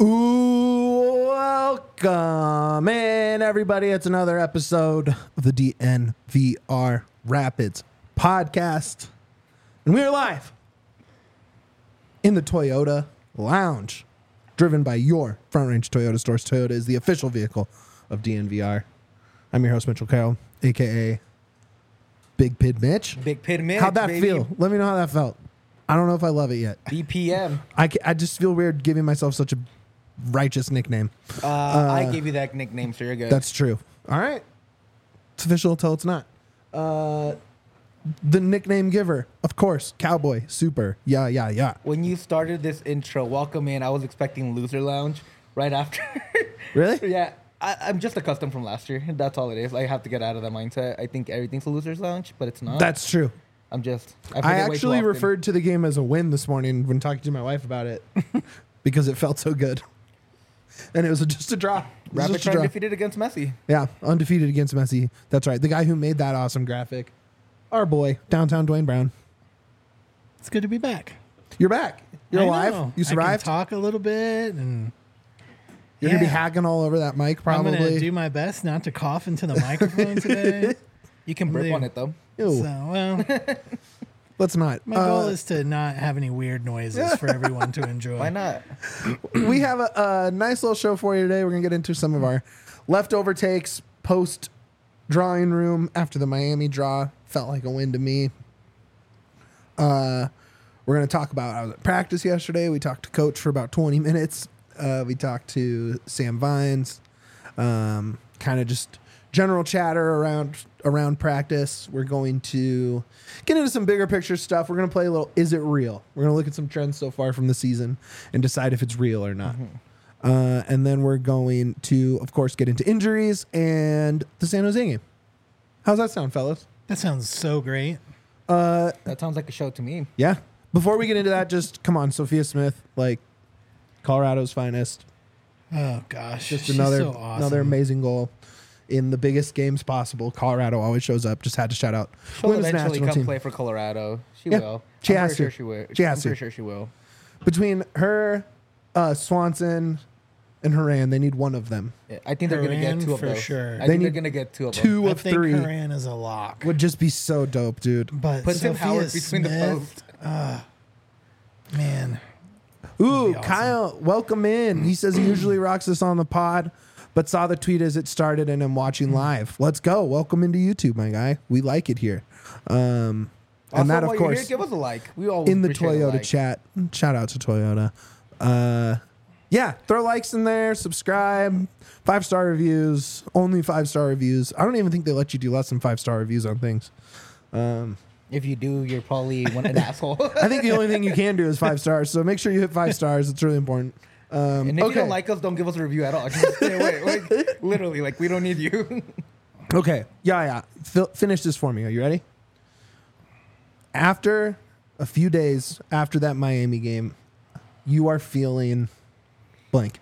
Ooh, welcome in, everybody. It's another episode of the DNVR Rapids podcast. And we are live in the Toyota Lounge, driven by your Front Range Toyota stores. Toyota is the official vehicle of DNVR. I'm your host, Mitchell Carroll, a.k.a. Big Pid Mitch. Big Pid Mitch, How'd that baby. feel? Let me know how that felt. I don't know if I love it yet. BPM. I just feel weird giving myself such a righteous nickname. I gave you that nickname, so you're good. That's true. All right. It's official until it's not. The nickname giver, of course, Cowboy, Super, yeah. When you started this intro, welcome in, I was expecting Loser Lounge right after. Really? Yeah, I'm just accustomed from last year. That's all it is. I have to get out of that mindset. I think everything's a Loser's Lounge, but it's not. That's true. I I forget way too actually often. referred to the game as a win this morning when talking to my wife about it because it felt so good. And it was just a draw. It was Rapid just a trying draw. defeated against Messi. Yeah, undefeated against Messi. That's right. The guy who made that awesome graphic. Our boy, downtown Dwayne Brown. It's good to be back. You're back. You're I alive. know. You survived. I can talk a little bit, and You're going to be hacking all over that mic I'm probably. gonna do my best not to cough into the microphone today. You can burp Leave. on it, though. Ew, So, well, let's not. my goal is to not have any weird noises for everyone to enjoy. Why not? We have a nice little show for you today. We're going to get into some of our leftover takes post drawing room after the Miami draw. Felt like a win to me. We're going to talk about, I was at practice yesterday. We talked to Coach for about 20 minutes. We talked to Sam Vines. Kind of just general chatter around practice. We're going to get into some bigger picture stuff. We're going to play a little Is It Real? We're going to look at some trends so far from the season and decide if it's real or not. And then we're going to, of course, get into injuries and the San Jose game. How's that sound, fellas? That sounds so great. That sounds like a show to me. Yeah. Before we get into that, just come on, Sophia Smith, like Colorado's finest. Oh gosh, Just she's another so awesome. another amazing goal in the biggest games possible. Colorado always shows up. Just had to shout out She'll women's eventually national come team. play for Colorado. She Yeah, will. she I'm has pretty to. Sure she will. She has I'm to. pretty sure she will. Between her, Swanson, and Haran, they need one of them. Yeah, I think they're going to get Haran two of for those. sure. I They think need they're going to get two of them. Two I of think three Haran is a lock. would just be so dope, dude. But Put Tim Sophia Howard between the Smith, posts. Ooh, man, be awesome. Kyle, welcome in. He says he usually rocks us on the pod, but saw the tweet as it started and I'm watching live. Let's go. Welcome into YouTube, my guy. We like it here. And Also, that, of while you're course, here, give us a like. We always in the appreciate a Toyota like. chat. Shout out to Toyota. Yeah, throw likes in there, subscribe, 5-star reviews, only 5-star reviews. I don't even think they let you do less than 5-star reviews on things. If you do, you're probably an asshole. I think the only thing you can do is 5 stars, so make sure you hit 5 stars. It's really important. And if you don't like us, don't give us a review at all. Just stay away. Like, literally, like, we don't need you. Okay, yeah. Finish this for me. Are you ready? After a few days after that Miami game, you are feeling blank,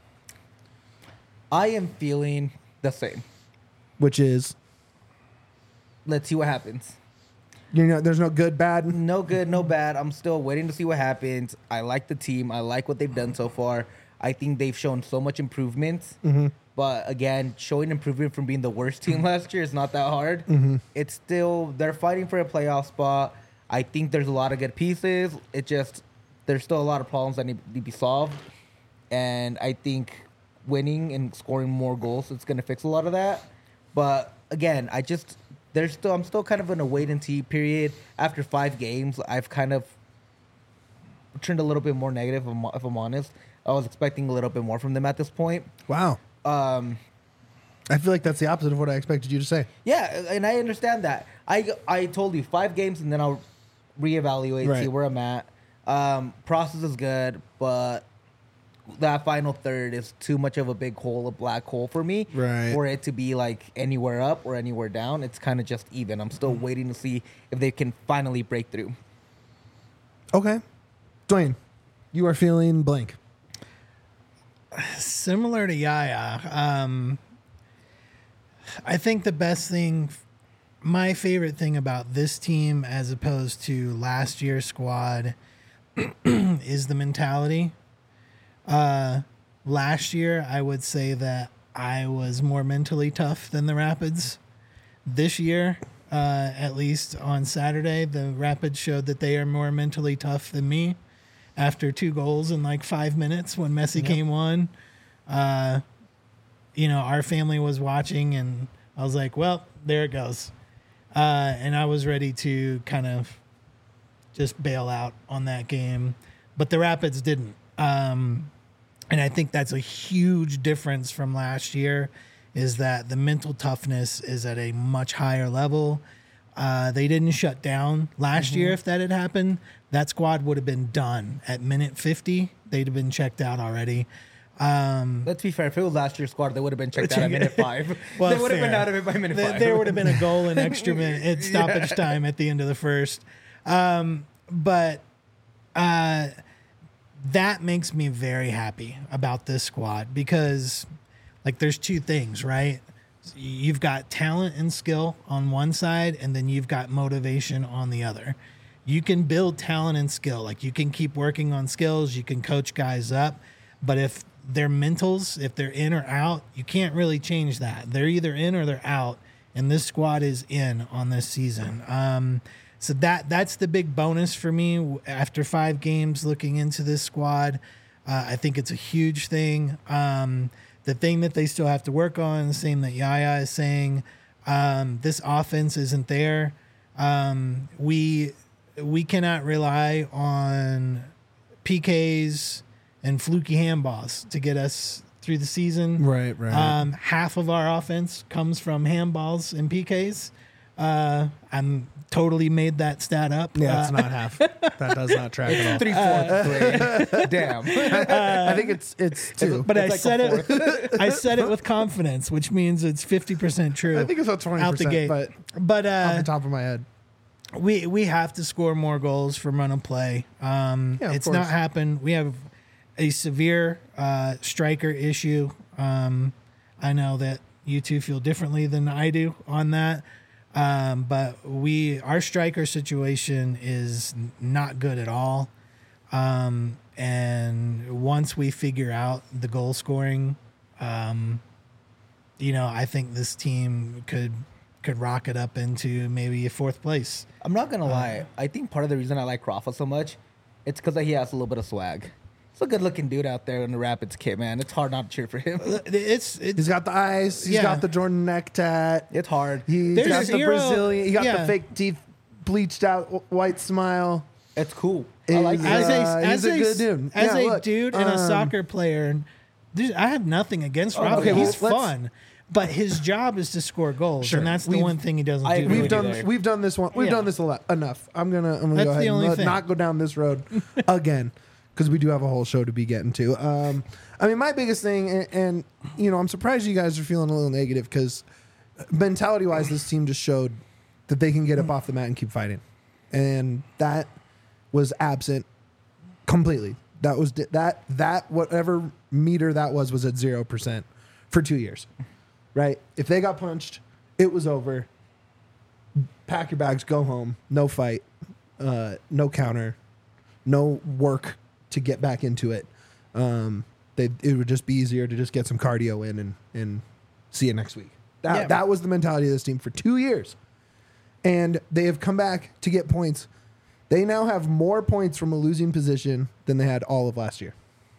I am feeling the same. which is, Let's see what happens. there's no good, bad. No good, no bad. I'm still waiting to see what happens. I like the team. I like what they've done so far. I think they've shown so much improvement. But again, showing improvement from being the worst team last year is not that hard. It's still, they're fighting for a playoff spot. I think there's a lot of good pieces. There's still a lot of problems that need to be solved. And I think winning and scoring more goals, it's going to fix a lot of that. But again, I'm still kind of in a wait and see period. After 5 games, I've kind of turned a little bit more negative, if I'm honest. I was expecting a little bit more from them at this point. Wow. I feel like that's the opposite of what I expected you to say. Yeah, and I understand that. I told you 5 games, and then I'll reevaluate, Right. see where I'm at. Process is good, but that final third is too much of a big hole, a black hole for me. Right. For it to be like anywhere up or anywhere down. It's kind of just even. I'm still waiting to see if they can finally break through. Okay. Dwayne, you are feeling blank. Similar to Yaya, I think the best thing, my favorite thing about this team as opposed to last year's squad is the mentality. last year, I would say that I was more mentally tough than the Rapids. This year, at least on Saturday, the Rapids showed that they are more mentally tough than me. After 2 goals in like 5 minutes when Messi came on, our family was watching, and I was like, well, there it goes. And I was ready to kind of just bail out on that game. But the Rapids didn't. And I think that's a huge difference from last year, is that the mental toughness is at a much higher level. They didn't shut down last year. If that had happened, that squad would have been done at minute 50. They'd have been checked out already. Let's be fair. If it was last year's squad, they would have been checked out at minute 5. Well, they would have been fair. out of it by minute 5. There would have been a goal in extra minute stoppage time at the end of the first. But that makes me very happy about this squad, because like there's 2 things, right? You've got talent and skill on one side, and then you've got motivation on the other. You can build talent and skill. Like you can keep working on skills, you can coach guys up, but if their mentals, if they're in or out, you can't really change that. They're either in or they're out, and this squad is in on this season. So that's the big bonus for me after 5 games looking into this squad. I think it's a huge thing. The thing that they still have to work on, the same that Yaya is saying, this offense isn't there. We cannot rely on PKs and fluky handballs to get us through the season. Right. Half of our offense comes from handballs and PKs. I'm totally made that stat up. Yeah, it's not half. That does not track at all. 3/4. Damn. I think it's 2. But It's I like said it. I said it with confidence, which means it's 50% true. I think it's about 20%, out the gate. but off the top of my head. We have to score more goals from run and play. of It's course. not happened. We have a severe striker issue. I know that you two feel differently than I do on that. But our striker situation is not good at all. And once we figure out the goal scoring, I think this team could rocket up into maybe a 4th place. I'm not going to lie. I think part of the reason I like Rafa so much, it's because he has a little bit of swag. He's a good-looking dude out there in the Rapids kit, man. It's hard not to cheer for him. He's got the eyes. He's Yeah. got the Jordan neck tat. It's hard. He's There's got the zero- Brazilian. He got yeah. the fake teeth, bleached out white smile. It's cool. I like He's, it. he's a good dude. As Yeah, a look, dude and a soccer player, I have nothing against Rafa. okay, well, He's let's- fun, but his job is to score goals, Sure. and that's the We've- one thing he doesn't I do. agree We've with really. you done there. we've done this one. We've Yeah. done this a lot enough. I'm gonna That's go the ahead only and thing. not go down this road again, because we do have a whole show to be getting to. I mean, my biggest thing, and I'm surprised you guys are feeling a little negative, because mentality wise, this team just showed that they can get up off the mat and keep fighting, and that was absent completely. That was that whatever meter that was at 0% for 2 years, right? If they got punched, it was over. Pack your bags, go home. No fight, no counter, no work to get back into it. It would just be easier to just get some cardio in and see you next week. That was the mentality of this team for 2 years, and they have come back to get points. They now have more points from a losing position than they had all of last year.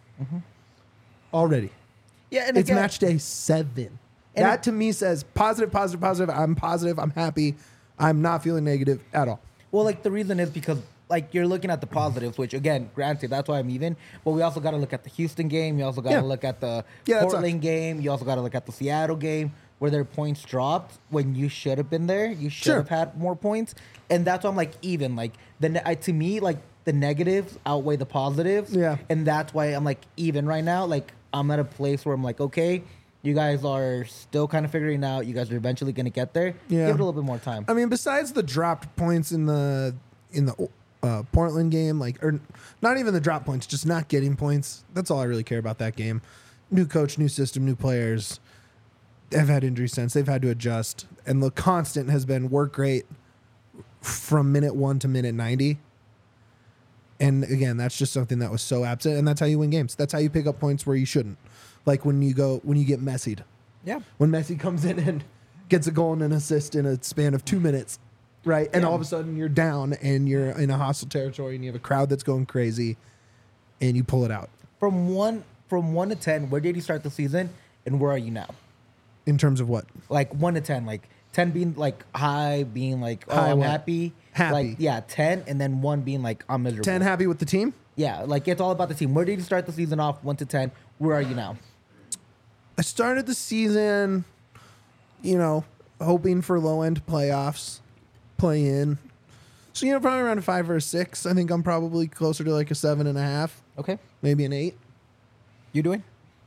Already. Yeah, and It's again, match day 7. And That to me says positive. I'm positive. I'm happy. I'm not feeling negative at all. Well, like the reason is because like you're looking at the positives, which again, granted, that's why I'm even. But we also got to look at the Houston game. You also got to Yeah. look at the Yeah, that Portland sucks. game. You also got to look at the Seattle game where their points dropped when you should have been there. You should Sure. have had more points, and that's why I'm like even. Like to me, like the negatives outweigh the positives. Yeah. and that's why I'm like even right now. Like I'm at a place where I'm like, okay, you guys are still kind of figuring it out. You guys are eventually going to get there. Yeah. Give it a little bit more time. I mean, besides the dropped points in the Portland game, or not even the drop points, just not getting points. That's all I really care about that game. New coach, new system, new players. They've had injury since. They've had to adjust. And the constant has been work rate from minute 1 to minute 90. And again, that's just something that was so absent, and that's how you win games. That's how you pick up points where you shouldn't. Like when you get Messi'd. Yeah. When Messi comes in and gets a goal and an assist in a span of 2 minutes, right? And all of a sudden you're down and you're in a hostile territory and you have a crowd that's going crazy, and you pull it out. From 1 to 10, where did you start the season, and where are you now? In terms of what? Like 1 to 10, like 10 being like high, being like, oh, High I'm what? happy. Happy. Like, yeah, 10, and then 1 being like, I'm miserable. 10 happy with the team? Yeah, like it's all about the team. Where did you start the season off? 1 to 10. Where are you now? I started the season, hoping for low-end playoffs, play in. So, probably around a 5 or a 6. I think I'm probably closer to like a 7.5, Okay. maybe an 8. You doing?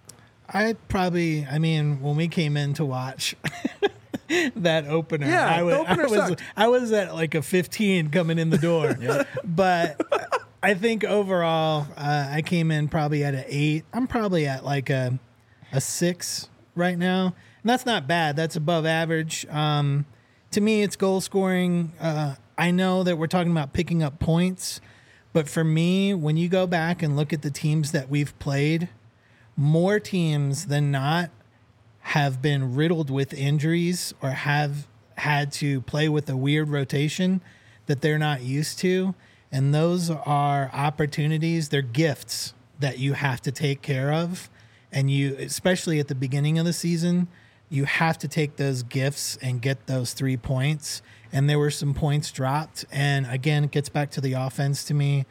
When we came in to watch that opener, Yeah, the opener sucked. I was at like a 15 coming in the door. But I think overall, I came in probably at an 8. I'm probably at like a 6 right now. And that's not bad. That's above average. To me, it's goal scoring. I know that we're talking about picking up points, but for me, when you go back and look at the teams that we've played, more teams than not have been riddled with injuries or have had to play with a weird rotation that they're not used to. And those are opportunities, they're gifts that you have to take care of. And you, especially at the beginning of the season, you have to take those gifts and get those 3 points. And there were some points dropped. And again, it gets back to the offense to me.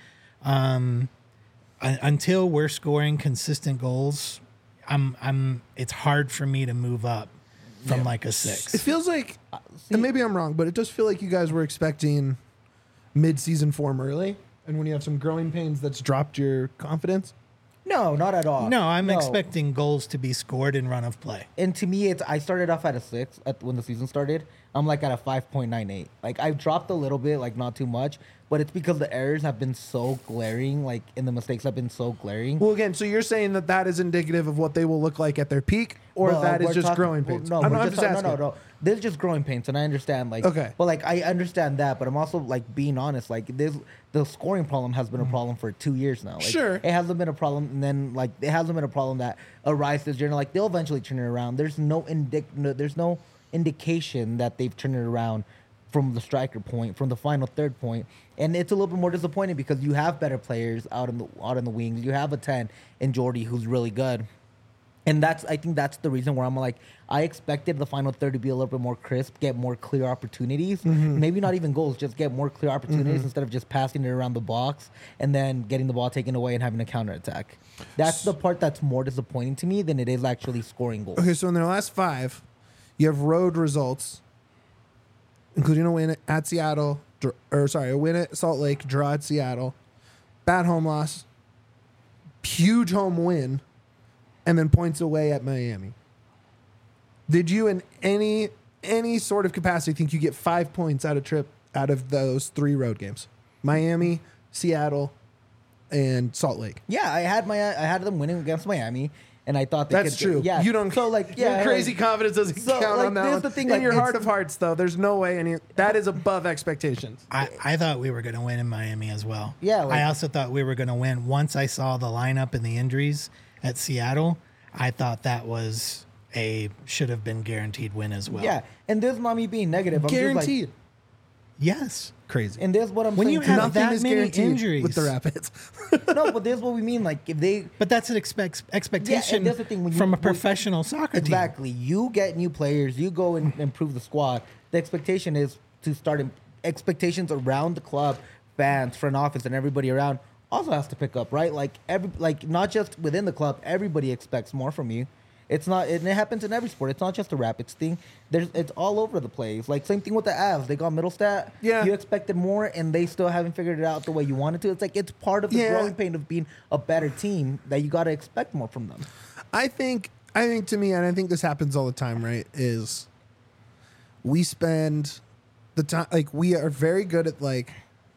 Until we're scoring consistent goals, it's hard for me to move up from like a 6. It feels like, and maybe I'm wrong, but it does feel like you guys were expecting mid-season form early. And when you have some growing pains, that's dropped your confidence. No, not at all. No, I'm expecting goals to be scored in run of play. And to me, I started off at a 6 when the season started. I'm like at a 5.98. Like I've dropped a little bit, like not too much, but it's because the errors have been so glaring, like and the mistakes have been so glaring. Well, again, so you're saying that is indicative of what they will look like at their peak, or Well, that is we're just talking- growing pains? No, I'm we're not just just talking- asking. no. This is just growing pains, and I understand. Like, Okay. but like I understand that, but I'm also like being honest. Like, the scoring problem has been a problem for 2 years now. Like, Sure. it hasn't been a problem, and then like it hasn't been a problem that arises during. Like, they'll eventually turn it around. There's no indication that they've turned it around from the striker point, from the final third point. And it's a little bit more disappointing because you have better players out in the wings. You have a 10 in Jordy who's really good. And I think that's the reason where I'm like, I expected the final third to be a little bit more crisp, get more clear opportunities. Maybe not even goals, just get more clear opportunities instead of just passing it around the box and then getting the ball taken away and having a counterattack. That's the part that's more disappointing to me than it is actually scoring goals. Okay, so in their last 5, you have road results, including a win at Seattle, a win at Salt Lake, draw at Seattle, bad home loss, huge home win, and then points away at Miami. Did you, in any sort of capacity, think you get 5 points out of those 3 road games? Miami, Seattle, and Salt Lake. Yeah, I had them winning against Miami, and I thought That's true. Yeah, You don't. So like, yeah, your crazy confidence doesn't so, count like, on that here's one. the thing, In like, your heart it's- of hearts, though, there's no way that is above expectations. I thought we were going to win in Miami as well. Yeah, like- I also thought we were going to win. Once I saw the lineup and the injuries at Seattle, I thought that was should have been guaranteed win as well. Yeah, and this is not me being negative. I'm Guaranteed. Just Yes. Crazy. like, and this is what I'm When saying. you too. have Nothing that is many guaranteed injuries. with the Rapids. No, but this is what we mean. Like, if they But that's an expectation that's the thing, when you- from a when- professional soccer team. exactly, you get new players, you go and improve the squad. The expectation is to start expectations around the club, fans, front office, and everybody around also has to pick up, right? Like not just within the club, everybody expects more from you. It's not, and it happens in every sport. It's not just a Rapids thing. It's all over the place. Like, same thing with the Avs. They got Middlestat. Yeah. You expected more, and they still haven't figured it out the way you wanted to. It's like, it's part of the Yeah. growing pain of being a better team that you got to expect more from them. I think to me, and I think this happens all the time, right? Is we spend the time, like, we are very good at like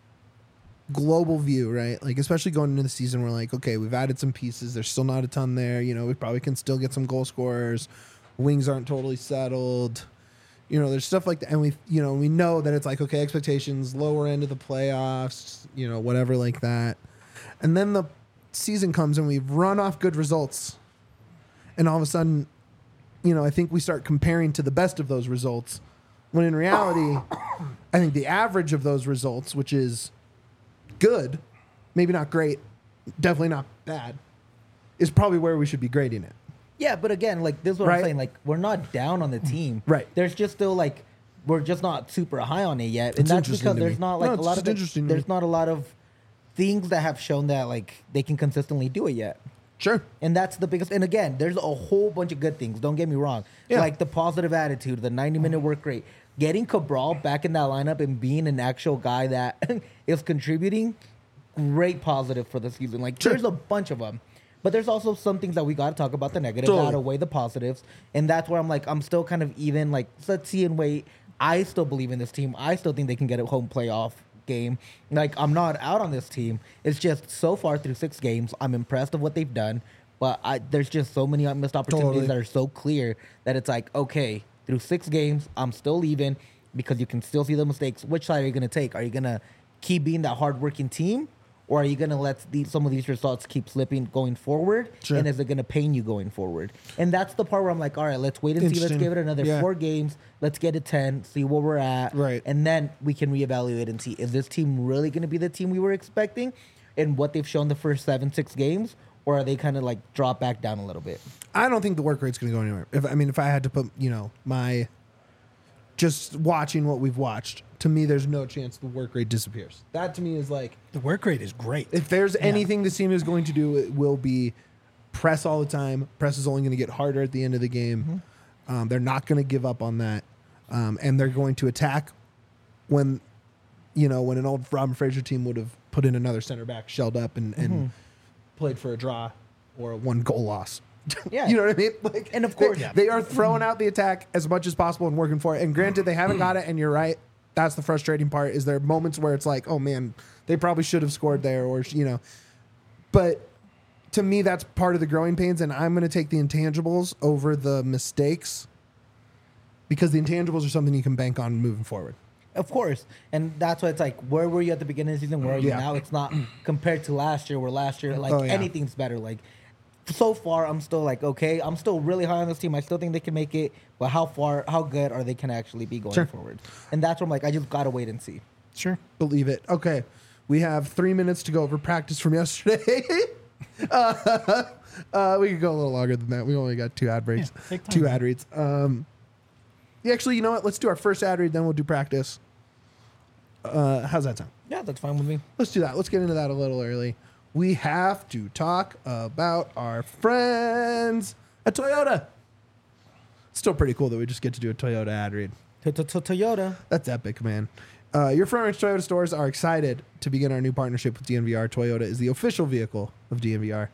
global view, right? Like, especially going into the season, we're like, okay, we've added some pieces. There's still not a ton there. We probably can still get some goal scorers. Wings aren't totally settled. There's stuff like that, and we know that it's like, okay, expectations, lower end of the playoffs, whatever like that. And then the season comes and we've run off good results. And all of a sudden, I think we start comparing to the best of those results. When in reality, I think the average of those results, which is good, maybe not great, definitely not bad, is probably where we should be grading it. Yeah, but again, like this is what Right. I'm saying. Like we're not down on the team. Right. There's just still like we're just not super high on it yet, and It's that's interesting because to there's me. not like No, a it's lot just of interesting to me. there's not a lot of things that have shown that like they can consistently do it yet. Sure. And that's the biggest. And again, there's a whole bunch of good things. Don't get me wrong. Yeah. Like the positive attitude, the 90-minute work rate, getting Cabral back in that lineup and being an actual guy that is contributing. Great positive for the season. Like Sure. there's a bunch of them. But there's also some things that we got to talk about the negatives, Totally. outweigh the positives, and that's where I'm like, I'm still kind of even. Like, let's see and wait. I still believe in this team. I still think they can get a home playoff game. Like, I'm not out on this team. It's just so far through 6 games, I'm impressed of what they've done. But there's just so many missed opportunities Totally. that are so clear that it's like, okay, through 6 games, I'm still even because you can still see the mistakes. Which side are you going to take? Are you going to keep being that hardworking team? Or are you going to let some of these results keep slipping going forward? Sure. And is it going to pain you going forward? And that's the part where I'm like, all right, let's wait and see. Let's Interesting. give it another Yeah. 4 games. Let's get to 10, see where we're at. Right. And then we can reevaluate and see, is this team really going to be the team we were expecting and what they've shown the first 7-6 games? Or are they kind of like drop back down a little bit? I don't think the work rate's going to go anywhere. If I had to put, my just watching what we've watched, to me, there's no chance the work rate disappears. That to me is like, The work rate is great. if there's anything this team is going to do, it will be press all the time. Press is only going to get harder at the end of the game. They're not going to give up on that, and they're going to attack when an old Robin Fraser team would have put in another center back, shelled up, and played for a draw or a 1-goal loss. Yeah. You know what I mean? Like, And of course- they are throwing out the attack as much as possible and working for it. And granted, they haven't got it, and you're right. That's the frustrating part. Is there moments where it's like, oh man, they probably should have scored there, or But to me, that's part of the growing pains, and I'm going to take the intangibles over the mistakes because the intangibles are something you can bank on moving forward. Of course. And that's why it's like, where were you at the beginning of the season? Where are you Yeah. now? It's not compared to last year, where last year, like, Oh, yeah. anything's better. Like, so far, I'm still like, okay, I'm still really high on this team. I still think they can make it. But how good are they can actually be going Sure. forward? And that's where I'm like, I just got to wait and see. Sure. Believe it. Okay. We have 3 minutes to go over practice from yesterday. We could go a little longer than that. We only got 2 ad breaks. Yeah, take time, 2 man. ad reads. Actually, you know what? Let's do our first ad read, then we'll do practice. How's that sound? Yeah, that's fine with me. Let's do that. Let's get into that a little early. We have to talk about our friends at Toyota. Still pretty cool that we just get to do a Toyota ad read. Toyota. That's epic, man. Your Front Range Toyota stores are excited to begin our new partnership with DNVR. Toyota is the official vehicle of DNVR.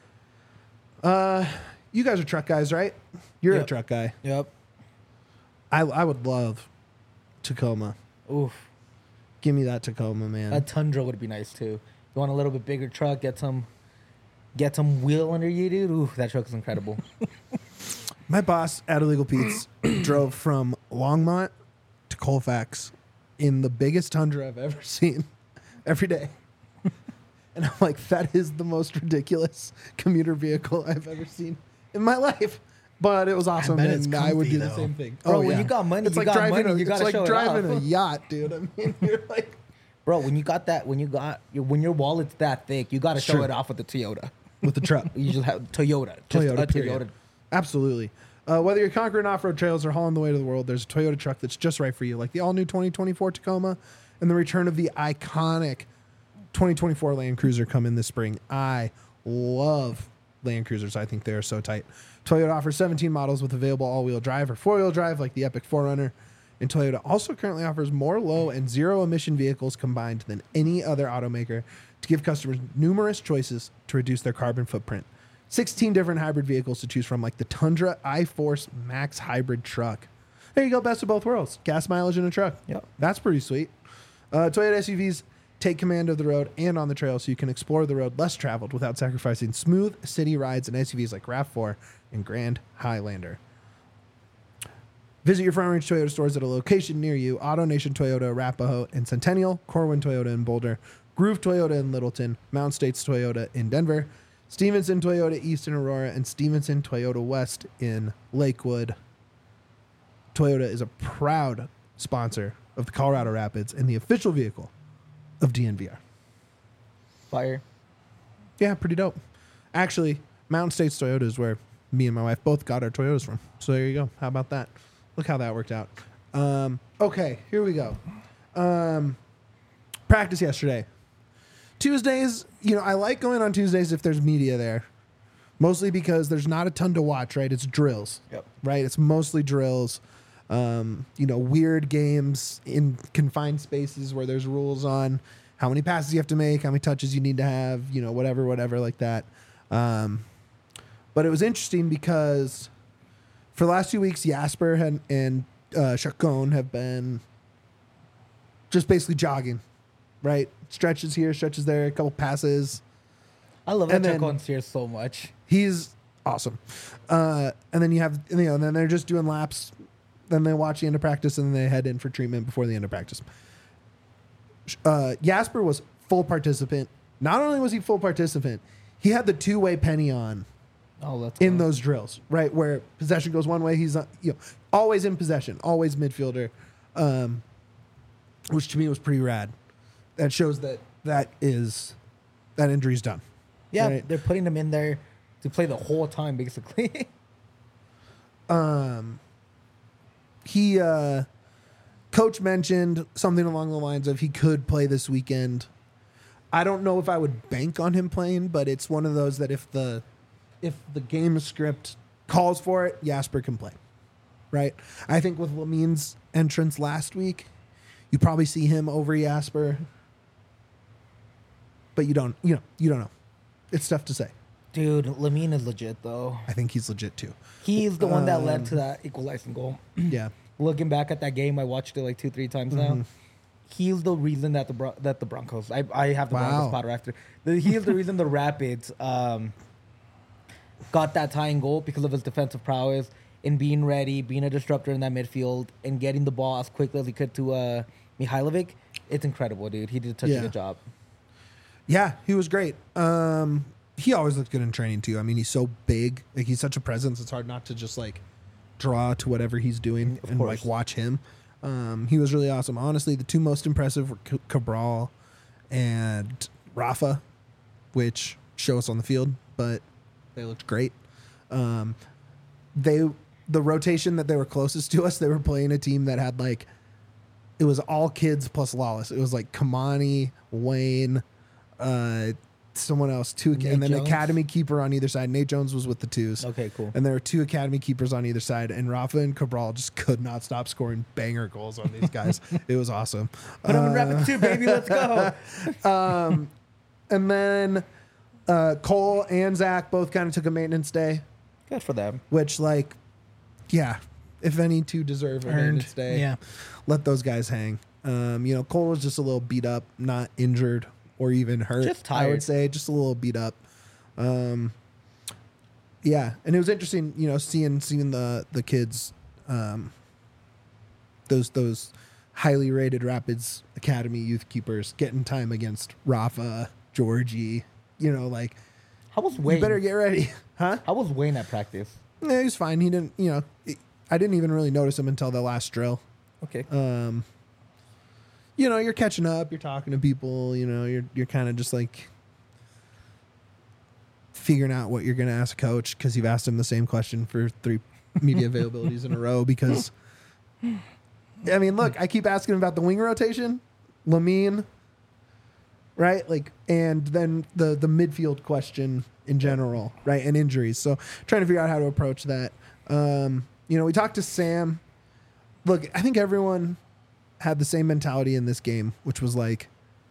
You guys are truck guys, right? You're a Yep. truck guy. Yep. I would love Tacoma. Oof. Give me that Tacoma, man. A Tundra would be nice too. You want a little bit bigger truck, get some wheel under you, dude. Ooh, that truck is incredible. My boss at Illegal Pete's drove from Longmont to Colfax in the biggest Tundra I've ever seen every day. And I'm like, that is the most ridiculous commuter vehicle I've ever seen in my life. But it was awesome, bet it's and I would comfy, do the though. same thing. Bro, when you got money, it's you like got driving money, a, you it's gotta like show it driving off. a yacht, dude. I mean, you're like, Bro, when your wallet's that thick, you got to show True. it off with the Toyota. with the truck. You just have Toyota. Just Toyota, a period. Toyota. Absolutely. Whether you're conquering off-road trails or hauling the way to the world, there's a Toyota truck that's just right for you, like the all-new 2024 Tacoma and the return of the iconic 2024 Land Cruiser come in this spring. I love Land Cruisers. I think they are so tight. Toyota offers 17 models with available all-wheel drive or four-wheel drive, like the Epic 4Runner. And Toyota also currently offers more low and zero-emission vehicles combined than any other automaker to give customers numerous choices to reduce their carbon footprint. 16 different hybrid vehicles to choose from, like the Tundra iForce Max hybrid truck. There you go, best of both worlds. Gas mileage in a truck. Yep. That's pretty sweet. Toyota SUVs take command of the road and on the trail so you can explore the road less traveled without sacrificing smooth city rides in SUVs like RAV4 and Grand Highlander. Visit your Front Range Toyota stores at a location near you. AutoNation Toyota, Arapahoe, and Centennial. Corwin Toyota in Boulder. Groove Toyota in Littleton, Mountain States Toyota in Denver, Stevenson Toyota East in Aurora, and Stevenson Toyota West in Lakewood. Toyota is a proud sponsor of the Colorado Rapids and the official vehicle of DNVR. Fire. Yeah, pretty dope. Actually, Mountain States Toyota is where me and my wife both got our Toyotas from. So there you go. How about that? Look how that worked out. Okay, here we go. Practice yesterday. Tuesdays, I like going on Tuesdays if there's media there. Mostly because there's not a ton to watch, right? It's drills. Yep. Right? It's mostly drills. Weird games in confined spaces where there's rules on how many passes you have to make, how many touches you need to have, whatever like that. But it was interesting because for the last 2 weeks, Jasper and Chacon have been just basically jogging, right? Stretches here, stretches there, a couple passes. I love And that then- Chacon's here so much. He's awesome. And then you have, and then they're just doing laps. Then they watch the end of practice and then they head in for treatment before the end of practice. Jasper was full participant. Not only was he full participant, he had the two-way penny on Oh, that's in cool. those drills, right? Where possession goes one way, he's always in possession, always midfielder, which to me was pretty rad. That shows that injury's done. Yeah, right? they're putting him in there to play the whole time, basically. He coach mentioned something along the lines of he could play this weekend. I don't know if I would bank on him playing, but it's one of those that if the game script calls for it, Jasper can play. Right? I think with Lamin's entrance last week, you probably see him over Jasper. But you don't know. It's tough to say. Dude, Lamine is legit, though. I think he's legit too. He's the one that led to that equalizing goal. Yeah. Looking back at that game, I watched it like 2-3 times now. He's the reason that the Broncos. I have the Broncos spotter after. He is the reason the Rapids got that tying goal because of his defensive prowess in being ready, being a disruptor in that midfield, and getting the ball as quickly as he could to Mihailovic. It's incredible, dude. He did such a good job. Yeah, he was great. He always looked good in training too. I mean, he's so big. Like he's such a presence. It's hard not to just like draw to whatever he's doing and course. like watch him. He was really awesome. Honestly, the two most impressive were Cabral and Rafa, which show us on the field, but they looked great. The rotation that they were closest to us, they were playing a team that had like it was all kids plus Lawless. It was like Kamani, Wayne, someone else, and then Jones. academy keeper on either side. Nate Jones was with the twos. Okay, cool. And there were two academy keepers on either side, and Rafa and Cabral just could not stop scoring banger goals on these guys. It was awesome. Put him in Rapid 2, baby. Let's go. And then Cole and Zach both kind of took a maintenance day, Good for them. which, like, yeah, if any two deserve a maintenance day, Yeah. let those guys hang. Cole was just a little beat up, not injured or even hurt. Just I would tired. say, just a little beat up. Yeah, and it was interesting, seeing the kids, those highly rated Rapids Academy youth keepers getting time against Rafa, Georgie. How was You Wayne? better get ready, huh? How was Wayne at practice? Yeah, he was fine. He didn't, I didn't even really notice him until the last drill. Okay. You're catching up, you're talking to people, you're kind of just like figuring out what you're going to ask coach because you've asked him the same question for 3 media availabilities in a row because, I mean, look, I keep asking about the wing rotation, Lamine, right? Like, and then the midfield question in general, right? And injuries. So trying to figure out how to approach that. We talked to Sam. Look, I think everyone had the same mentality in this game, which was like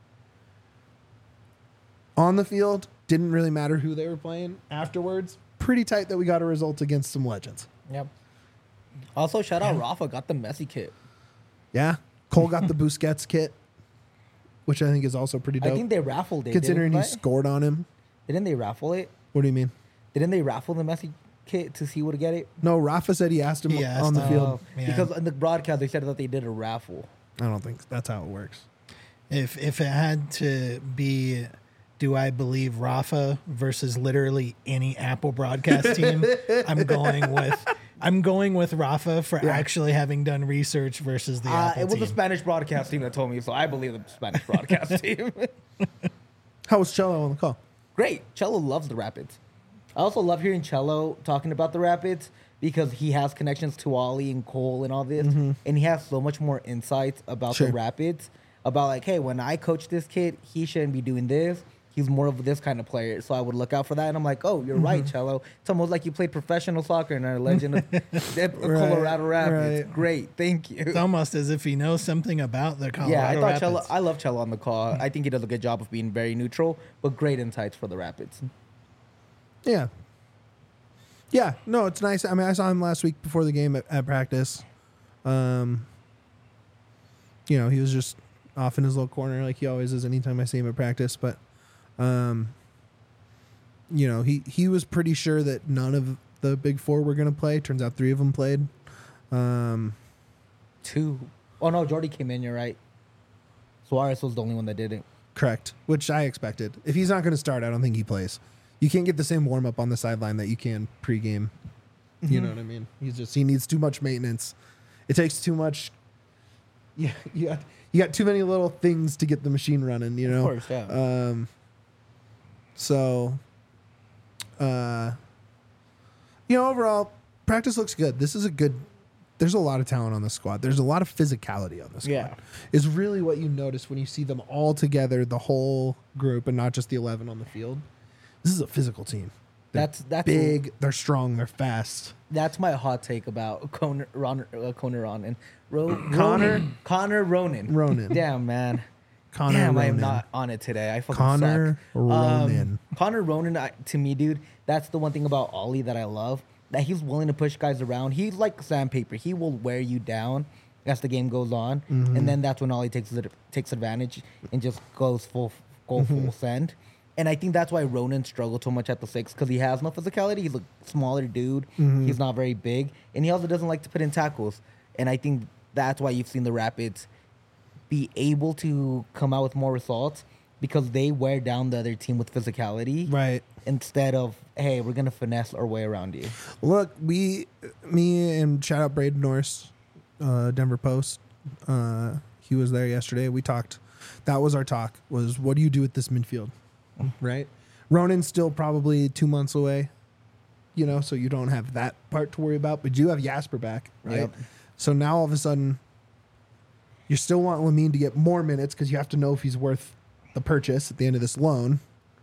on the field, didn't really matter who they were playing. Afterwards, pretty tight that we got a result against some legends. Yep. Also, shout out Rafa got the Messi kit. Yeah. Cole got the Busquets kit, which I think is also pretty dope. I think they raffled it. considering he didn't they? scored on him. Didn't they raffle it? What do you mean? Didn't they raffle the Messi kit to see who would get it? No, Rafa said he asked him He asked on the him. field. Yeah. Because in the broadcast they said that they did a raffle. I don't think that's how it works. If it had to be, do I believe Rafa versus literally any Apple broadcast team? I'm going with Rafa for actually having done research versus the Apple It was team. the Spanish broadcast team that told me, so I believe the Spanish broadcast team. How was Cello on the call? Great. Cello loves the Rapids. I also love hearing Cello talking about the Rapids because he has connections to Ollie and Cole and all this, and he has so much more insights about Sure. the Rapids, about like, hey, when I coach this kid, he shouldn't be doing this. He's more of this kind of player, so I would look out for that. And I'm like, oh, you're right, Cello. It's almost like you played professional soccer and are a legend of the Colorado Rapids. right. Great, thank you. It's almost as if he knows something about the Colorado Yeah, I thought Rapids. Cello. I love Cello on the call. I think he does a good job of being very neutral, but great insights for the Rapids. Yeah. Yeah, no, it's nice. I mean, I saw him last week before the game at practice. You know, he was just off in his little corner like he always is anytime I see him at practice. But, you know, he was pretty sure that none of the big four were going to play. Turns out three of them played. Two. Oh, no, Jordy came in, you're right. Suarez was the only one that didn't. Correct, which I expected. If he's not going to start, I don't think he plays. You can't get the same warm up on the sideline that you can pregame. You know what I mean? He needs too much maintenance. It takes too much. Yeah, you got too many little things to get the machine running. You know. Of course, yeah. So, you know, overall practice looks good. This is a good. There's a lot of talent on the squad. There's a lot of physicality on the squad. Yeah. Is really what you notice when you see them all together, the whole group, and not just the 11 on the field. This is a physical team. They're That's big. They're strong. They're fast. That's my hot take about Connor Ronan. Connor? Connor Ronan. Ronan. Damn, man. Connor Damn, I am Ronan. not on it today. I fucking Connor suck. Ronan. Connor Ronan, to me, dude, that's the one thing about Ollie that I love. That he's willing to push guys around. He's like sandpaper. He will wear you down as the game goes on, and then that's when Ollie takes advantage and just goes full send. And I think that's why Ronan struggled so much at the 6 because he has no physicality. He's a smaller dude. He's not very big, and he also doesn't like to put in tackles. And I think that's why you've seen the Rapids be able to come out with more results because they wear down the other team with physicality, Right. instead of, hey, we're gonna finesse our way around you. Look, me and shout out Braden Norris, Denver Post. He was there yesterday. We talked. That was our talk. Was what do you do with this midfield? Right. Ronan's still probably 2 months away. You know, so you don't have that part to worry about. But you have Jasper back, right? Yep. So now all of a sudden, you still want Lamine to get more minutes because you have to know if he's worth the purchase at the end of this loan.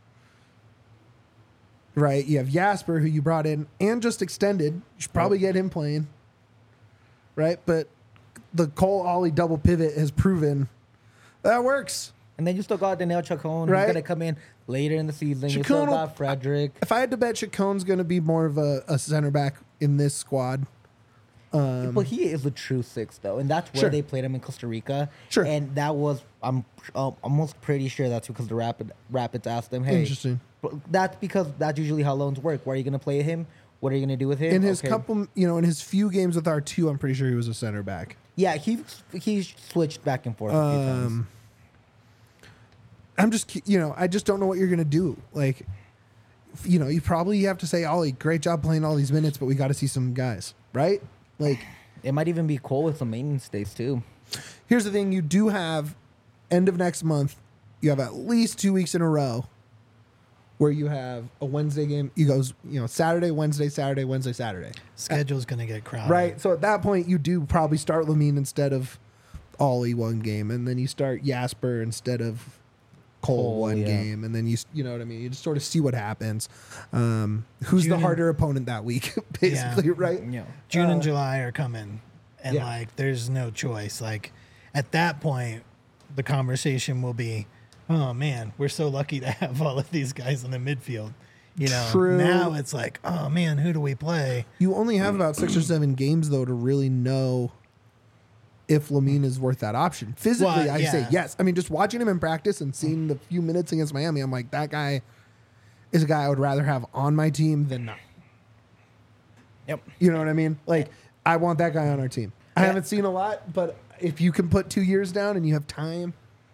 Right, you have Jasper, who you brought in and just extended. You should probably get him playing. Right, but the Cole Ollie double pivot has proven that works. And then you still got Daniel Chacon, Right. who's gonna come in later in the season. You Chacon still will- got Frederick. If I had to bet, Chacon's going to be more of a center back in this squad. But he is a true 6, though, and that's where Sure. they played him in Costa Rica. Sure. And that was, I'm almost pretty sure that's because the Rapids asked them, hey, Interesting. but that's because that's usually how loans work. Where are you gonna play him? What are you gonna do with him? In his Okay. couple, you know, in his few games with R2, I'm pretty sure he was a center back. Yeah, he switched back and forth a few times. I'm just, you know, I just don't know what you're going to do. Like, you know, you probably have to say, Ollie, great job playing all these minutes, but we got to see some guys, right? Like, It might even be Cole with some maintenance days too. here's the thing. You do have, end of next month, you have at least 2 weeks in a row where you have a Wednesday game. You goes, you know, Saturday, Wednesday, Saturday, Wednesday, Saturday. Schedule's going to get crowded. Right. So at that point, you do probably start Lamine instead of Ollie one game, and then you start Jasper instead of Cole one yeah. game, and then you know what I mean. You just sort of see what happens. Who's the June- harder opponent that week, basically, right? Yeah. June and July are coming, and yeah. like there's no choice. Like at that point, the conversation will be, "Oh man, we're so lucky to have all of these guys in the midfield." You know, True. now it's like, "Oh man, who do we play?" You only have about 6 or 7 games though to really know if Lamine is worth that option. Physically, Well, I say yeah. yes. I mean, just watching him in practice and seeing the few minutes against Miami, I'm like, that guy is a guy I would rather have on my team than not. Yep. You know what I mean? Like, I want that guy on our team. I Yeah. haven't seen a lot, but if you can put 2 years down and you have time,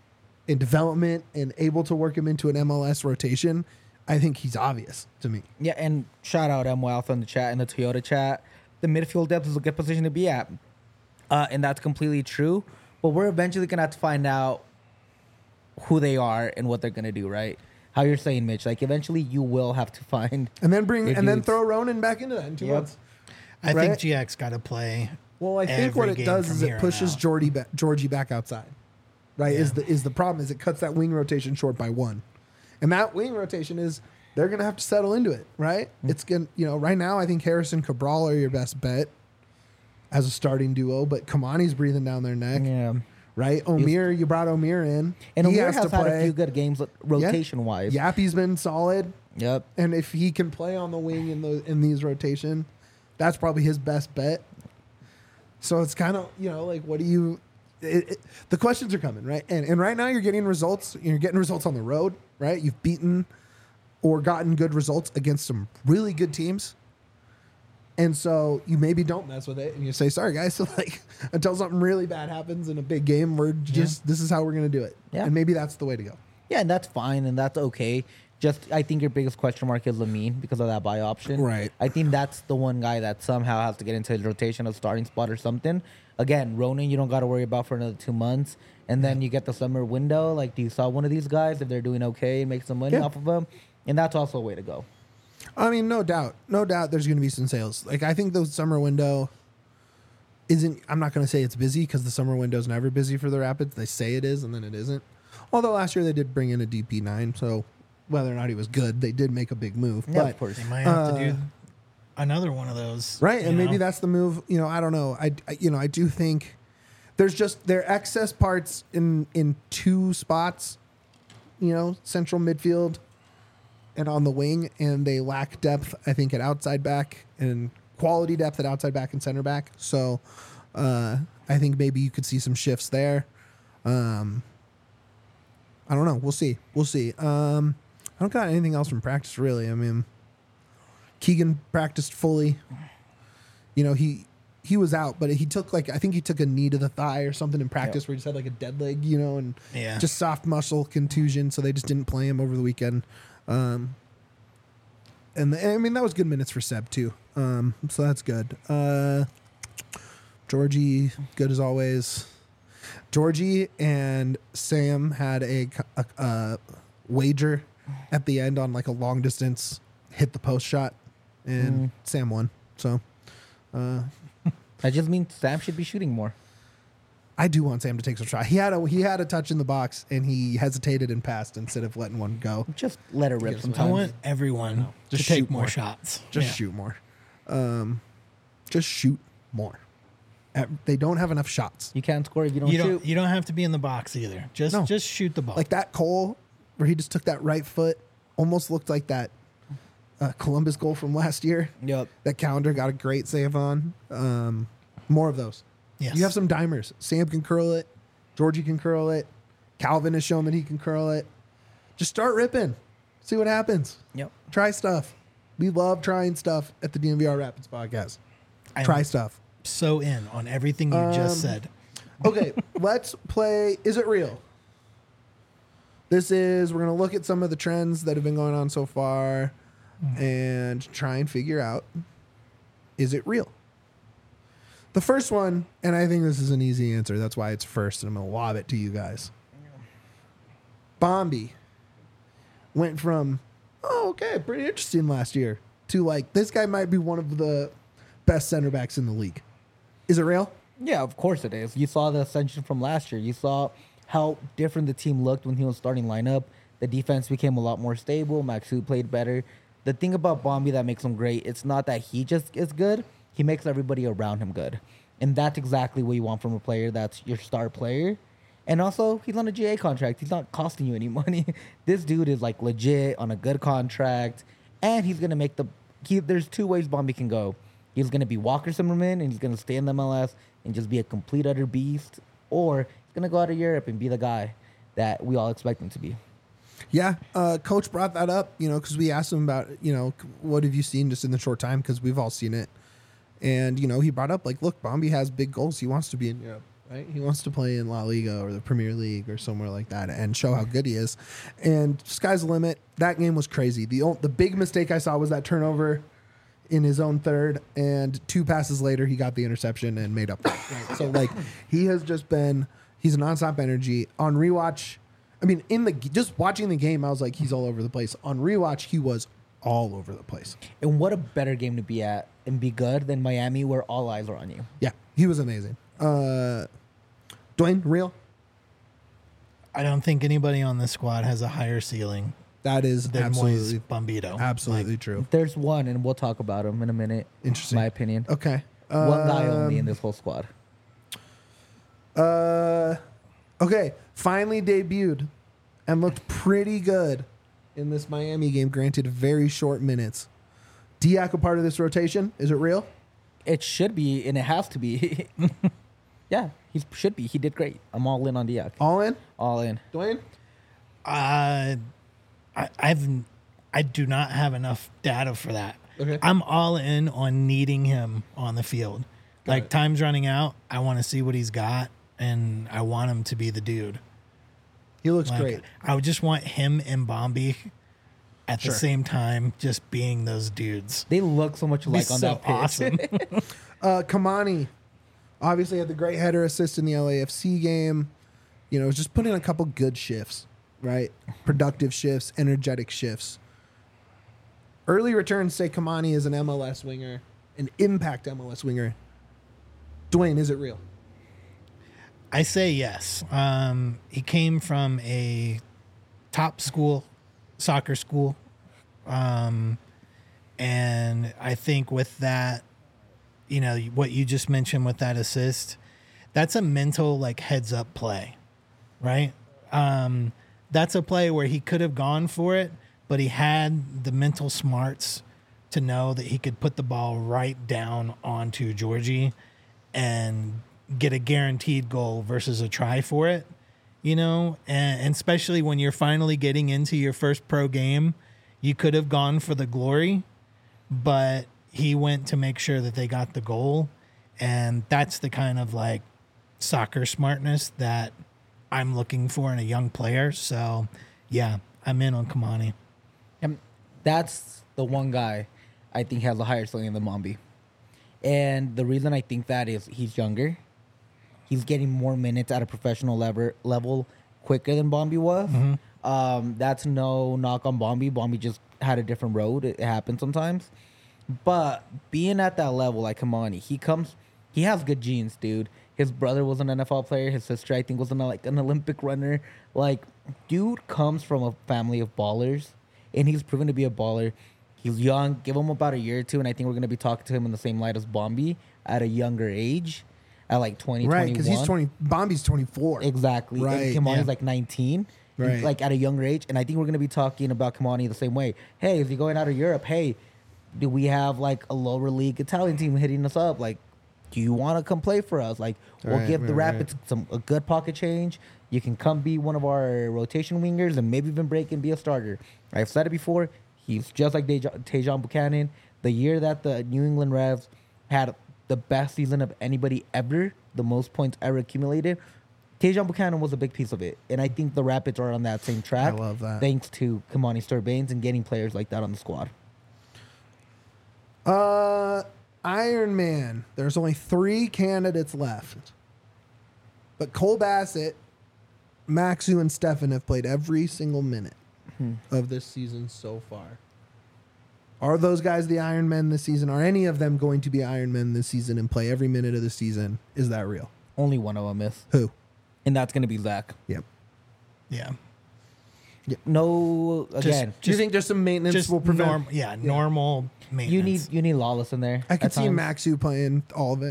in development and able to work him into an MLS rotation, I think he's obvious to me. Yeah, and shout out M. Alpha in the chat, in the Toyota chat. The midfield depth is a good position to be at. And that's completely true. But we're eventually going to have to find out who they are and what they're going to do, right? How you're saying, Mitch. Like, eventually you will have to find... And then then dudes. throw Ronan back into that in 2 Yep. months. I Right? think GX got to play. Well, I think what every it game does from is here it on pushes out. Georgie back outside. Right? Yeah. Is the problem is it cuts that wing rotation short by 1. And that wing rotation is they're going to have to settle into it, right? It's going to, right now I think Harrison Cabral are your best bet as a starting duo, but Kamani's breathing down their neck. Yeah. Right? Omir, you brought Omir in. And He Omir has to had a play. few good games rotation-wise. Yappy's been solid. Yep. And if he can play on the wing in these rotation, that's probably his best bet. So it's kind of, like, what do you... the questions are coming, right? And right now you're getting results. You're getting results on the road, right? You've beaten or gotten good results against some really good teams. And so you maybe don't mess with it and you say, sorry, guys. So, like, until something really bad happens in a big game, this is how we're going to do it. Yeah. And maybe that's the way to go. Yeah, and that's fine, and that's okay. Just, I think your biggest question mark is Lamine because of that buy option. Right. I think that's the one guy that somehow has to get into his rotation, a starting spot or something. Again, Ronan, you don't got to worry about for another 2 months. And then you get the summer window. Like, do you saw one of these guys if they're doing okay and make some money Yeah. off of them? And that's also a way to go. I mean, no doubt there's going to be some sales. Like, I think the summer window I'm not going to say it's busy because the summer window is never busy for the Rapids. They say it is and then it isn't. Although last year they did bring in a DP9, so whether or not he was good, they did make a big move. Yeah, but of course. They might have to do another one of those. right, you and maybe know? that's the move. I don't know. I do think there's just there are excess parts in 2 spots, central midfield and on the wing, and they lack depth, I think, at outside back and quality depth at outside back and center back. So I think maybe you could see some shifts there. I don't know. We'll see. I don't got anything else from practice, really. I mean, Keegan practiced fully. He was out, but he took I think he took a knee to the thigh or something in practice where he just had like a dead leg, and just soft muscle contusion. So they just didn't play him over the weekend. And I mean, that was good minutes for Seb too. So that's good. Georgie, good as always. Georgie and Sam had a wager at the end on like a long distance hit the post shot, and Sam won. So That just means Sam should be shooting more. I do want Sam to take some shot. He had a touch in the box and he hesitated and passed instead of letting one go. Just let it rip I sometimes. want everyone Just to take shoot more more. shots. Just Yeah. shoot more. Just shoot more. They don't have enough shots. You can't score if you don't shoot. You don't have to be in the box either. Just No. just shoot the ball. Like that Cole, where he just took that right foot, almost looked like that Columbus goal from last year. Yep. That Calendar got a great save on. More of those. Yes. You have some dimers. Sam can curl it. Georgie can curl it. Calvin has shown that he can curl it. Just start ripping. See what happens. Yep. Try stuff. We love trying stuff at the DNVR Rapids podcast. I'm Try stuff. so in on everything you just said. Okay, let's play Is It Real? We're going to look at some of the trends that have been going on so far and try and figure out, is it real? The first one, and I think this is an easy answer, that's why it's first, and I'm going to lob it to you guys. Bombi went from, okay, pretty interesting last year, to like, this guy might be one of the best center backs in the league. Is it real? Yeah, of course it is. You saw the ascension from last year. You saw how different the team looked when he was starting lineup. The defense became a lot more stable. Maxu played better. The thing about Bombi that makes him great, it's not that he just is good. He makes everybody around him good. And that's exactly what you want from a player that's your star player. And also, he's on a GA contract. He's not costing you any money. This dude is like legit on a good contract. And he's going to make there's 2 ways Bombi can go. He's going to be Walker Zimmerman and he's going to stay in the MLS and just be a complete utter beast. Or he's going to go out of Europe and be the guy that we all expect him to be. Yeah, Coach brought that up, because we asked him about, what have you seen just in the short time, because we've all seen it. And, he brought up, like, look, Bombi has big goals. He wants to be in Europe. right? He wants to play in La Liga or the Premier League or somewhere like that and show how good he is. And sky's the limit. That game was crazy. The big mistake I saw was that turnover in his own third, and 2 passes later, he got the interception and made up. So, like, he has just been, he's a nonstop energy. On rewatch, I mean, just watching the game, I was like, he's all over the place. On rewatch, he was all over the place. And what a better game to be at and be good than Miami, where all eyes are on you. Yeah, he was amazing. Dwayne, real? I don't think anybody on this squad has a higher ceiling That is than absolutely, Moise Bombito. absolutely true. There's one, and we'll talk about him in a minute. Interesting. My opinion. Okay. One guy only in this whole squad. Okay. Finally debuted and looked pretty good in this Miami game. Granted, very short minutes. Diak a part of this rotation? Is it real? It should be, and it has to be. Yeah, he should be. He did great. I'm all in on Diak. All in? All in. Dwayne? I do not have enough data for that. Okay. I'm all in on needing him on the field. Like it. time's running out. I want to see what he's got, and I want him to be the dude. He looks Like, great. I would just want him and Bombi at Sure. the same time, just being those dudes. They look so much It'd be alike on so that pitch. awesome. Kamani obviously had the great header assist in the LAFC game. You know, just putting in a couple good shifts, right? Productive shifts, energetic shifts. Early returns say Kamani is an MLS winger, an impact MLS winger. Dwayne, is it real? I say yes. He came from a top school, soccer school. And I think with that, you know, what you just mentioned with that assist, that's a mental, like, heads up play, right? That's a play where he could have gone for it, but he had the mental smarts to know that he could put the ball right down onto Georgie and get a guaranteed goal versus a try for it, you know? And especially when you're finally getting into your first pro game, you could have gone for the glory, but he went to make sure that they got the goal. And that's the kind of, like, soccer smartness that I'm looking for in a young player. So, yeah, I'm in on Kamani. And that's the one guy I think has a higher ceiling than Mombi. And the reason I think that is he's younger. He's getting more minutes at a professional level quicker than Bombi was. That's no knock on Bombi. Bombi just had a different road. It happens sometimes. But being at that level, like Kamani, he has good genes, dude. His brother was an NFL player. His sister, I think, was an Olympic runner. Like, dude comes from a family of ballers, and he's proven to be a baller. He's young. Give him about a year or two, and I think we're going to be talking to him in the same light as Bombi at a younger age, at like 20, Right, 21. because he's 20. Bombi's 24. Exactly. Right, And Kimani's yeah. like 19. Right. Like at a younger age. And I think we're going to be talking about Kimani the same way. Hey, is he going out of Europe? Hey, do we have like a lower league Italian team hitting us up? Like, do you want to come play for us? Like, we'll Right, give the right, Rapids a good pocket change. You can come be one of our rotation wingers and maybe even break and be a starter. I've said it before. He's just like Tejan Buchanan. The year that the New England Revs had the best season of anybody ever, the most points ever accumulated, Tejan Buchanan was a big piece of it. And I think the Rapids are on that same track. I love that. Thanks to Kamani Sturbanes and getting players like that on the squad. Iron Man. There's only 3 candidates left. But Cole Bassett, Maxu, and Stefan have played every single minute of this season so far. Are those guys the Iron Men this season? Are any of them going to be Iron Men this season and play every minute of the season? Is that real? Only one of them is. Who? And that's going to be Zach. Yep. Yeah. No, again, Do you think just some maintenance Just will prevent? normal maintenance. you need Lawless in there. I could at see times. Maxu playing all of it.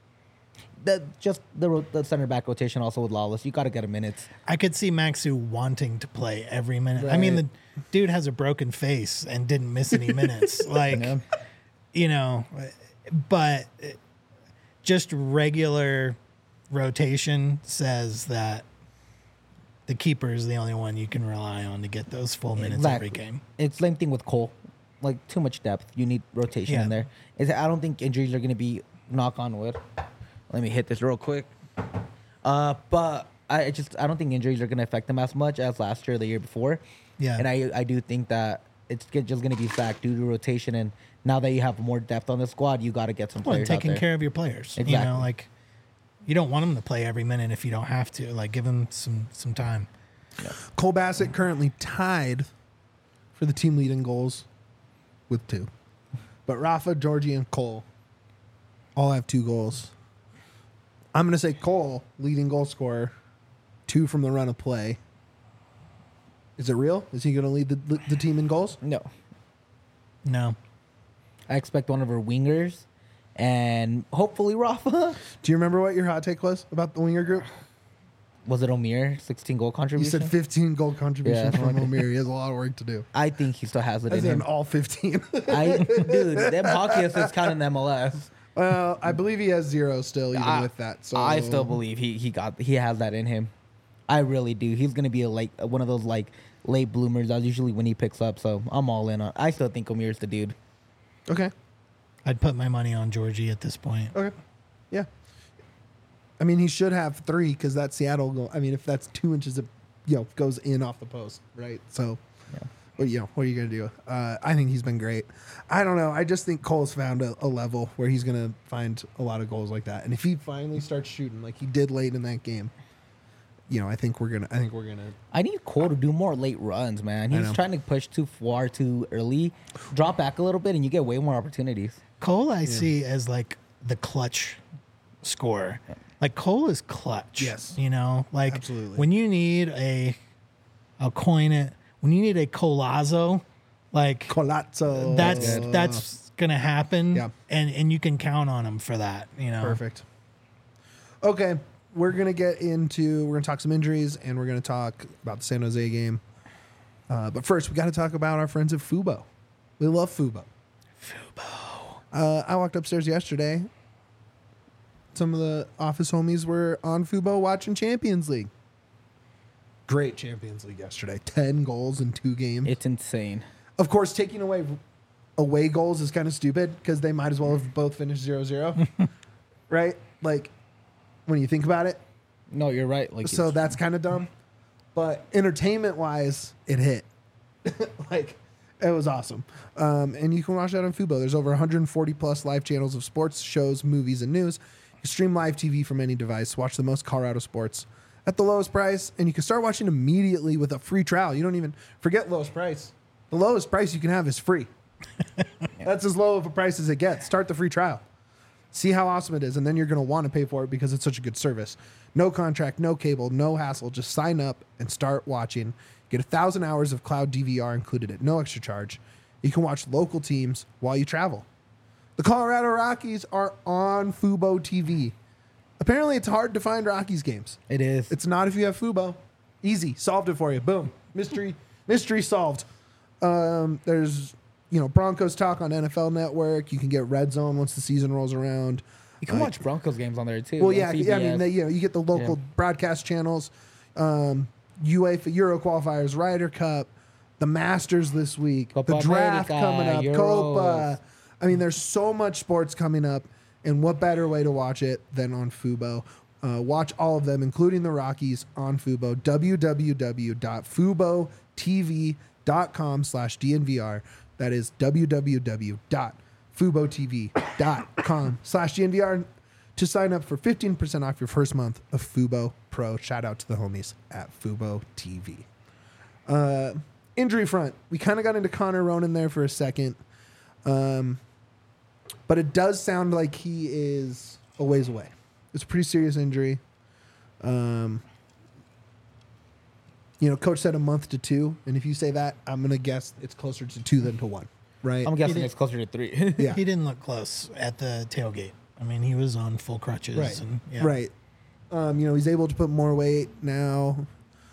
The center back rotation also with Lawless. You got to get a minutes. I could see Maxu wanting to play every minute. I mean, Right. the dude has a broken face and didn't miss any minutes. Like, Yeah. you know, but just regular rotation says that the keeper is the only one you can rely on to get those full minutes every game. It's same thing with Cole. Like too much depth. You need rotation Yeah. in there. I don't think injuries are going to be knock on wood. Let me hit this real quick. But I don't think injuries are going to affect them as much as last year or the year before. Yeah. And I do think that it's just going to be stacked due to rotation. And now that you have more depth on the squad, you got to get some Well, players out taking there. care of your players. You Exactly. know, like you don't want them to play every minute if you don't have to. Like give them some time. Cole Bassett currently tied for the team lead in goals with 2. But Rafa, Georgie, and Cole all have 2 goals. I'm going to say Cole, leading goal scorer, 2 from the run of play. Is it real? Is he going to lead the team in goals? No. No. I expect one of our wingers and hopefully Rafa. Do you remember what your hot take was about the winger group? Was it Omir? 16 goal You contribution? said 15 goal contributions Yeah. from Omir. He has a lot of work to do. I think he still has it As in in him. all 15. Dude, them hockey assists count in MLS. Well, I believe he has 0 still, even with that. So I still believe he has that in him. I really do. He's gonna be one of those like late bloomers. That's usually when he picks up. So I'm all in on. I still think Omir's the dude. Okay. I'd put my money on Georgie at this point. Okay. Yeah. I mean, he should have 3 because that Seattle goal. I mean, if that's 2 inches, it goes in off the post, right? So, what are you gonna do? I think he's been great. I don't know. I just think Cole's found a level where he's gonna find a lot of goals like that. And if he finally starts shooting like he did late in that game, I think we're gonna. I need Cole to do more late runs, man. I He's know. trying to push too far too early. Drop back a little bit, and you get way more opportunities. Cole, I see as like the clutch scorer. Like Cole is clutch. Yes. Like Absolutely. when you need I'll coin it. When you need a Colazo, like Colazzo. that's gonna happen. Yeah. And you can count on him for that. Perfect. Okay, we're gonna talk some injuries and we're gonna talk about the San Jose game. But first, we got to talk about our friends at Fubo. We love Fubo. I walked upstairs yesterday. Some of the office homies were on Fubo watching Champions League. Great Champions League yesterday. 10 goals in 2 games. It's insane. Of course, taking away goals is kind of stupid because they might as well have both finished 0-0. Right? Like, when you think about it. No, you're right. Like So that's kind of dumb. But entertainment-wise, it hit. Like, it was awesome. And you can watch that on Fubo. There's over 140-plus live channels of sports, shows, movies, and news. You stream live TV from any device. Watch the most Colorado sports at the lowest price. And you can start watching immediately with a free trial. You don't even forget lowest price. The lowest price you can have is free. That's as low of a price as it gets. Start the free trial. See how awesome it is, and then you're going to want to pay for it because it's such a good service. No contract, no cable, no hassle. Just sign up and start watching. Get 1,000 hours of cloud DVR included at no extra charge. You can watch local teams while you travel. The Colorado Rockies are on Fubo TV. Apparently, it's hard to find Rockies games. it is. It's not if you have Fubo. Easy. Solved it for you. Boom. Mystery solved. There's, Broncos talk on NFL Network. You can get Red Zone once the season rolls around. You can watch Broncos games on there too. Well, on yeah. I mean, CBS. you get the local broadcast channels. UEFA Euro qualifiers, Ryder Cup, the Masters this week, Copa the draft America, coming up, Euros. Copa. I mean, there's so much sports coming up, and what better way to watch it than on Fubo? Watch all of them, including the Rockies, on Fubo. www.fubotv.com/DNVR. That is www.fubotv.com/DNVR to sign up for 15% off your first month of Fubo Pro. Shout out to the homies at Fubo TV. Injury front. We kind of got into Connor Ronan there for a second. But it does sound like he is a ways away. It's a pretty serious injury. Coach said a month to 2. And if you say that, I'm going to guess it's closer to 2 than to 1. Right? I'm guessing did- it's closer to 3. Yeah. He didn't look close at the tailgate. I mean, he was on full crutches. Right. And, yeah. Right. He's able to put more weight now.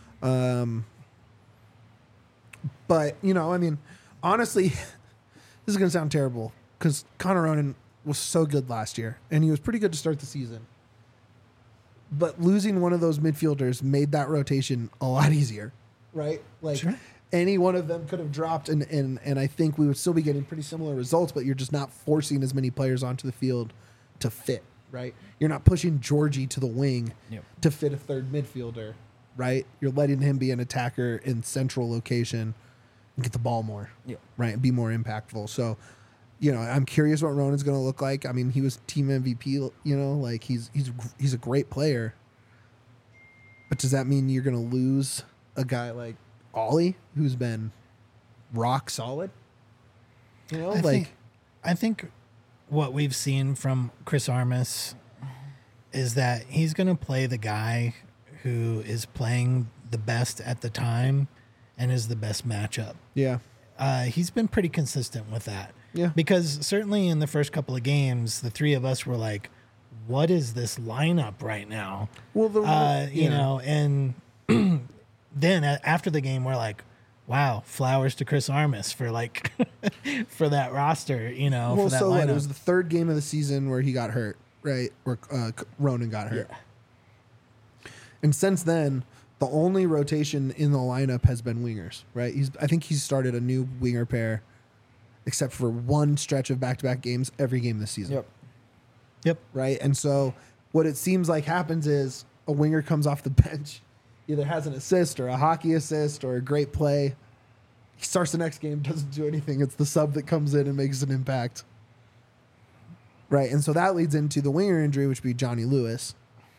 But, honestly, this is going to sound terrible because Connor Ronan was so good last year and he was pretty good to start the season. But losing one of those midfielders made that rotation a lot easier, right? Like Sure. any one of them could have dropped and I think we would still be getting pretty similar results, but you're just not forcing as many players onto the field to fit, right? You're not pushing Georgie to the wing Yep. to fit a third midfielder, right? You're letting him be an attacker in central location and get the ball more, Yep. right? And be more impactful. So, you know, I'm curious what Ronan's going to look like. I mean, he was team MVP, you know, like he's a great player. But does that mean you're going to lose a guy like Ollie, who's been rock solid? You know, I think what we've seen from Chris Armas is that he's going to play the guy who is playing the best at the time and is the best matchup. yeah. He's been pretty consistent with that. Yeah. Because certainly in the first couple of games, the three of us were like, what is this lineup right now? Well, You know, and then after the game, we're like, wow, flowers to Chris Armas for like, for that roster, you know, well, for that so lineup. what? It was the third game of the season where he got hurt, right? Where Ronan got hurt. Yeah. And since then, the only rotation in the lineup has been wingers, right? I think he's started a new winger pair, except for one stretch of back-to-back games every game this season. Yep. Right? And so what it seems like happens is a winger comes off the bench, either has an assist or a hockey assist or a great play. He starts the next game, doesn't do anything. It's the sub that comes in and makes an impact. Right? And so that leads into the winger injury, which would be Johnny Lewis.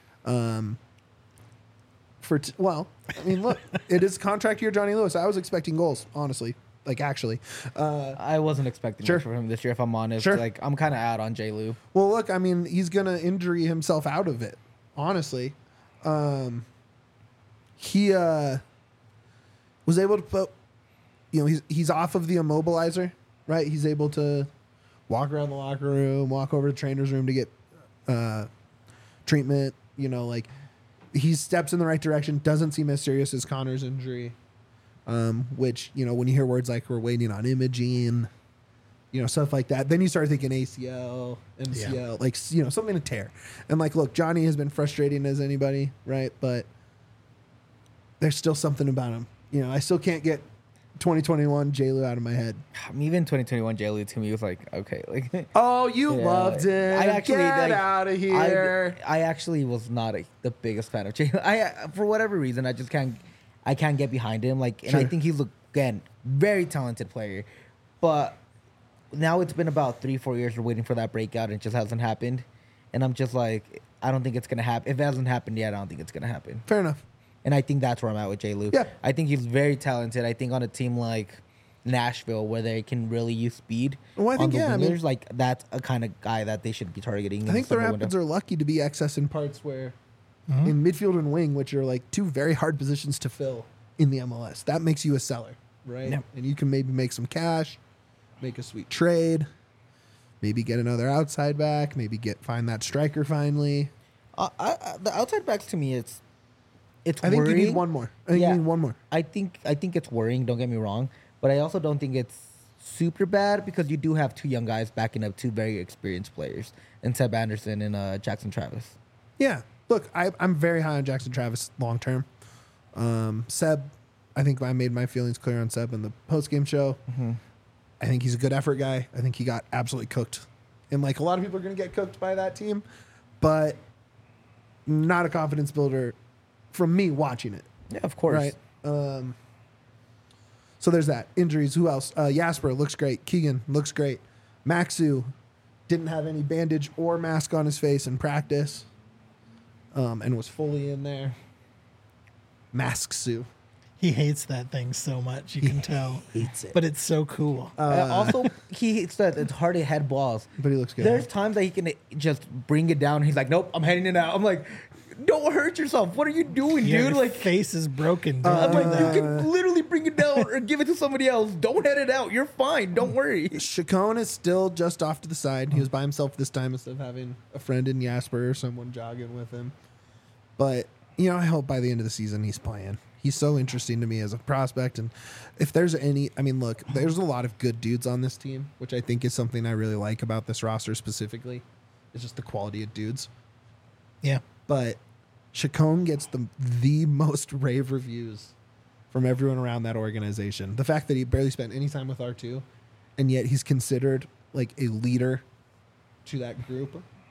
Well, I mean, look, it is contract year Johnny Lewis. I was expecting goals, honestly. Like, actually. I wasn't expecting Sure. much from him this year, if I'm honest. Sure. Like, I'm kind of out on J. Lou. Well, look, I mean, he's going to injury himself out of it, honestly. He was able to put, you know, he's off of the immobilizer, right? He's able to walk around the locker room, walk over to the trainer's room to get treatment, you know, like he steps in the right direction, doesn't seem as serious as Connor's injury, which, you know, when you hear words like we're waiting on imaging, you know, stuff like that, then you start thinking ACL, MCL, like, you know, something to tear. And like, look, Johnny has been frustrating as anybody, right? But there's still something about him. You know, I still can't get 2021 J-Lu out of my head. Even 2021 J. Lou to me was like, okay. Like, Oh, you Yeah. loved it. I actually, Get like, out of here. I actually was not the biggest fan of J. Lou. For whatever reason, I just can't get behind him. Like, and I Sure. think he's, again, very talented player. But now it's been about 3-4 years we're waiting for that breakout and it just hasn't happened. And I'm just like, I don't think it's going to happen. If it hasn't happened yet, I don't think it's going to happen. Fair enough. And I think that's where I'm at with J. Lou. Yeah. I think he's very talented. I think on a team like Nashville, where they can really use speed Well, I think, on the yeah, I mean- wingers, like that's a kind of guy that they should be targeting. I think the Rapids are lucky to be excess in parts where in midfield and wing, which are like two very hard positions to fill in the MLS. That makes you a seller, right? Yep. And you can maybe make some cash, make a sweet trade, maybe get another outside back, maybe find that striker finally. The outside backs to me, it's I think worrying. you need one more. I think Yeah. you need one more. I think it's worrying. Don't get me wrong, but I also don't think it's super bad because you do have two young guys backing up two very experienced players, and Seb Anderson and Jackson Travis. Yeah. Look, I'm very high on Jackson Travis long term. Seb, I think I made my feelings clear on Seb in the post game show. I think he's a good effort guy. I think he got absolutely cooked. And like a lot of people are going to get cooked by that team, but not a confidence builder from me watching it. Yeah, of course. Right. So there's that. Injuries. Who else? Jasper looks great. Keegan looks great. Maxu didn't have any bandage or mask on his face in practice, and was fully in there. Mask Sue. He hates that thing so much, you can tell. Hates it. But it's so cool. Also, he said it's hard to head balls. But he looks good. There's times that he can just bring it down. He's like, nope, I'm heading it out. I'm like, don't hurt yourself. What are you doing, Your dude? Like, face is broken. I'm Don't like, do you that. can literally bring it down or give it to somebody else. Don't head it out. You're fine. Don't worry. Chacon is still just off to the side. He was by himself this time instead of having a friend in Jasper or someone jogging with him. But, you know, I hope by the end of the season he's playing. He's so interesting to me as a prospect. And if there's any, I mean, look, there's a lot of good dudes on this team, which I think is something I really like about this roster specifically. It's just the quality of dudes. Yeah. But Chacon gets the most rave reviews from everyone around that organization. The fact that he barely spent any time with R2, and yet he's considered like a leader to that group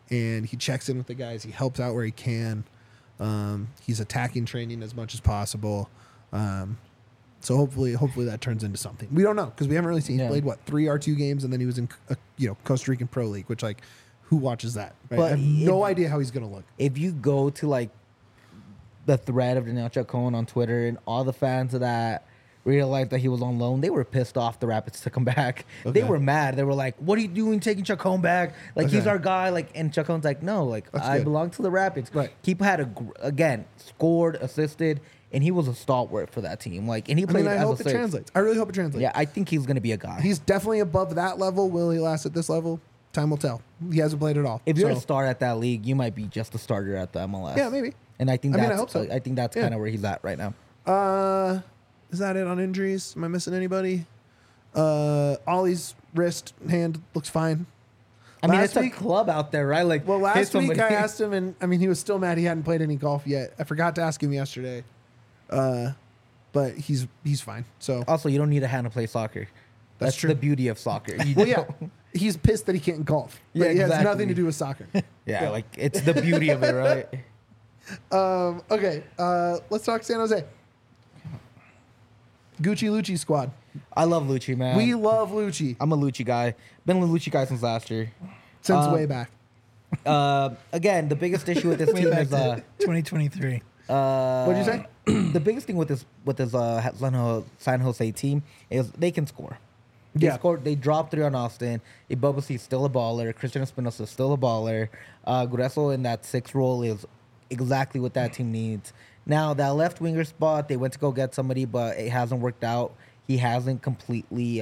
and he checks in with the guys. He helps out where he can. He's attacking training as much as possible. So hopefully that turns into something. We don't know because we haven't really seen. He played 3 R2 games, and then he was in Costa Rican Pro League, which like who watches that? Right? But I have no idea how he's gonna look. If you go to like the thread of Daniel Chacon on Twitter and all the fans of that realized that he was on loan, they were pissed off the Rapids took him back. Okay. They were mad. They were like, "What are you doing taking Chacon back? Like he's Okay. our guy." Like, and Chacon's like, "No, like That's I good. belong to the Rapids." Right. He had again scored, assisted, and he was a stalwart for that team. Like, and he I played mean, I as hope a it six. translates. I really hope it translates. Yeah, I think he's gonna be a guy. He's definitely above that level. Will he last at this level? Time will tell. He hasn't played at all. If you're a So, star at that league, you might be just a starter at the MLS. yeah, maybe. And I think I mean, I that's hope so. I think that's Yeah. kind of where he's at right now. Is that it on injuries? Am I missing anybody? Ollie's wrist hand looks fine. I mean, Last it's week- a club out there, right? Like, Well, hit last week somebody. I asked him, and I mean, he was still mad he hadn't played any golf yet. I forgot to ask him yesterday, but he's fine. So, Also, you don't need a hand to play soccer. That's true. the beauty of soccer. You well, yeah, don't- he's pissed that he can't golf. But Yeah, it has exactly. nothing to do with soccer. yeah, like it's the beauty of it, right? Okay, let's talk San Jose. Gucci Lucci squad. I love Lucci, man. We love Lucci I'm a Lucci guy. Been a Lucci guy since last year. since way back. Again, the biggest issue with this Way team back is to 2023. What'd you say? the biggest thing with this San Jose team is they can score. They Yeah. scored. They dropped 3 on Austin. Ibobasi is still a baller. Christian Espinosa is still a baller. Grueso in that 6 role is exactly what that team needs. Now that left winger spot, they went to go get somebody, but it hasn't worked out. He hasn't completely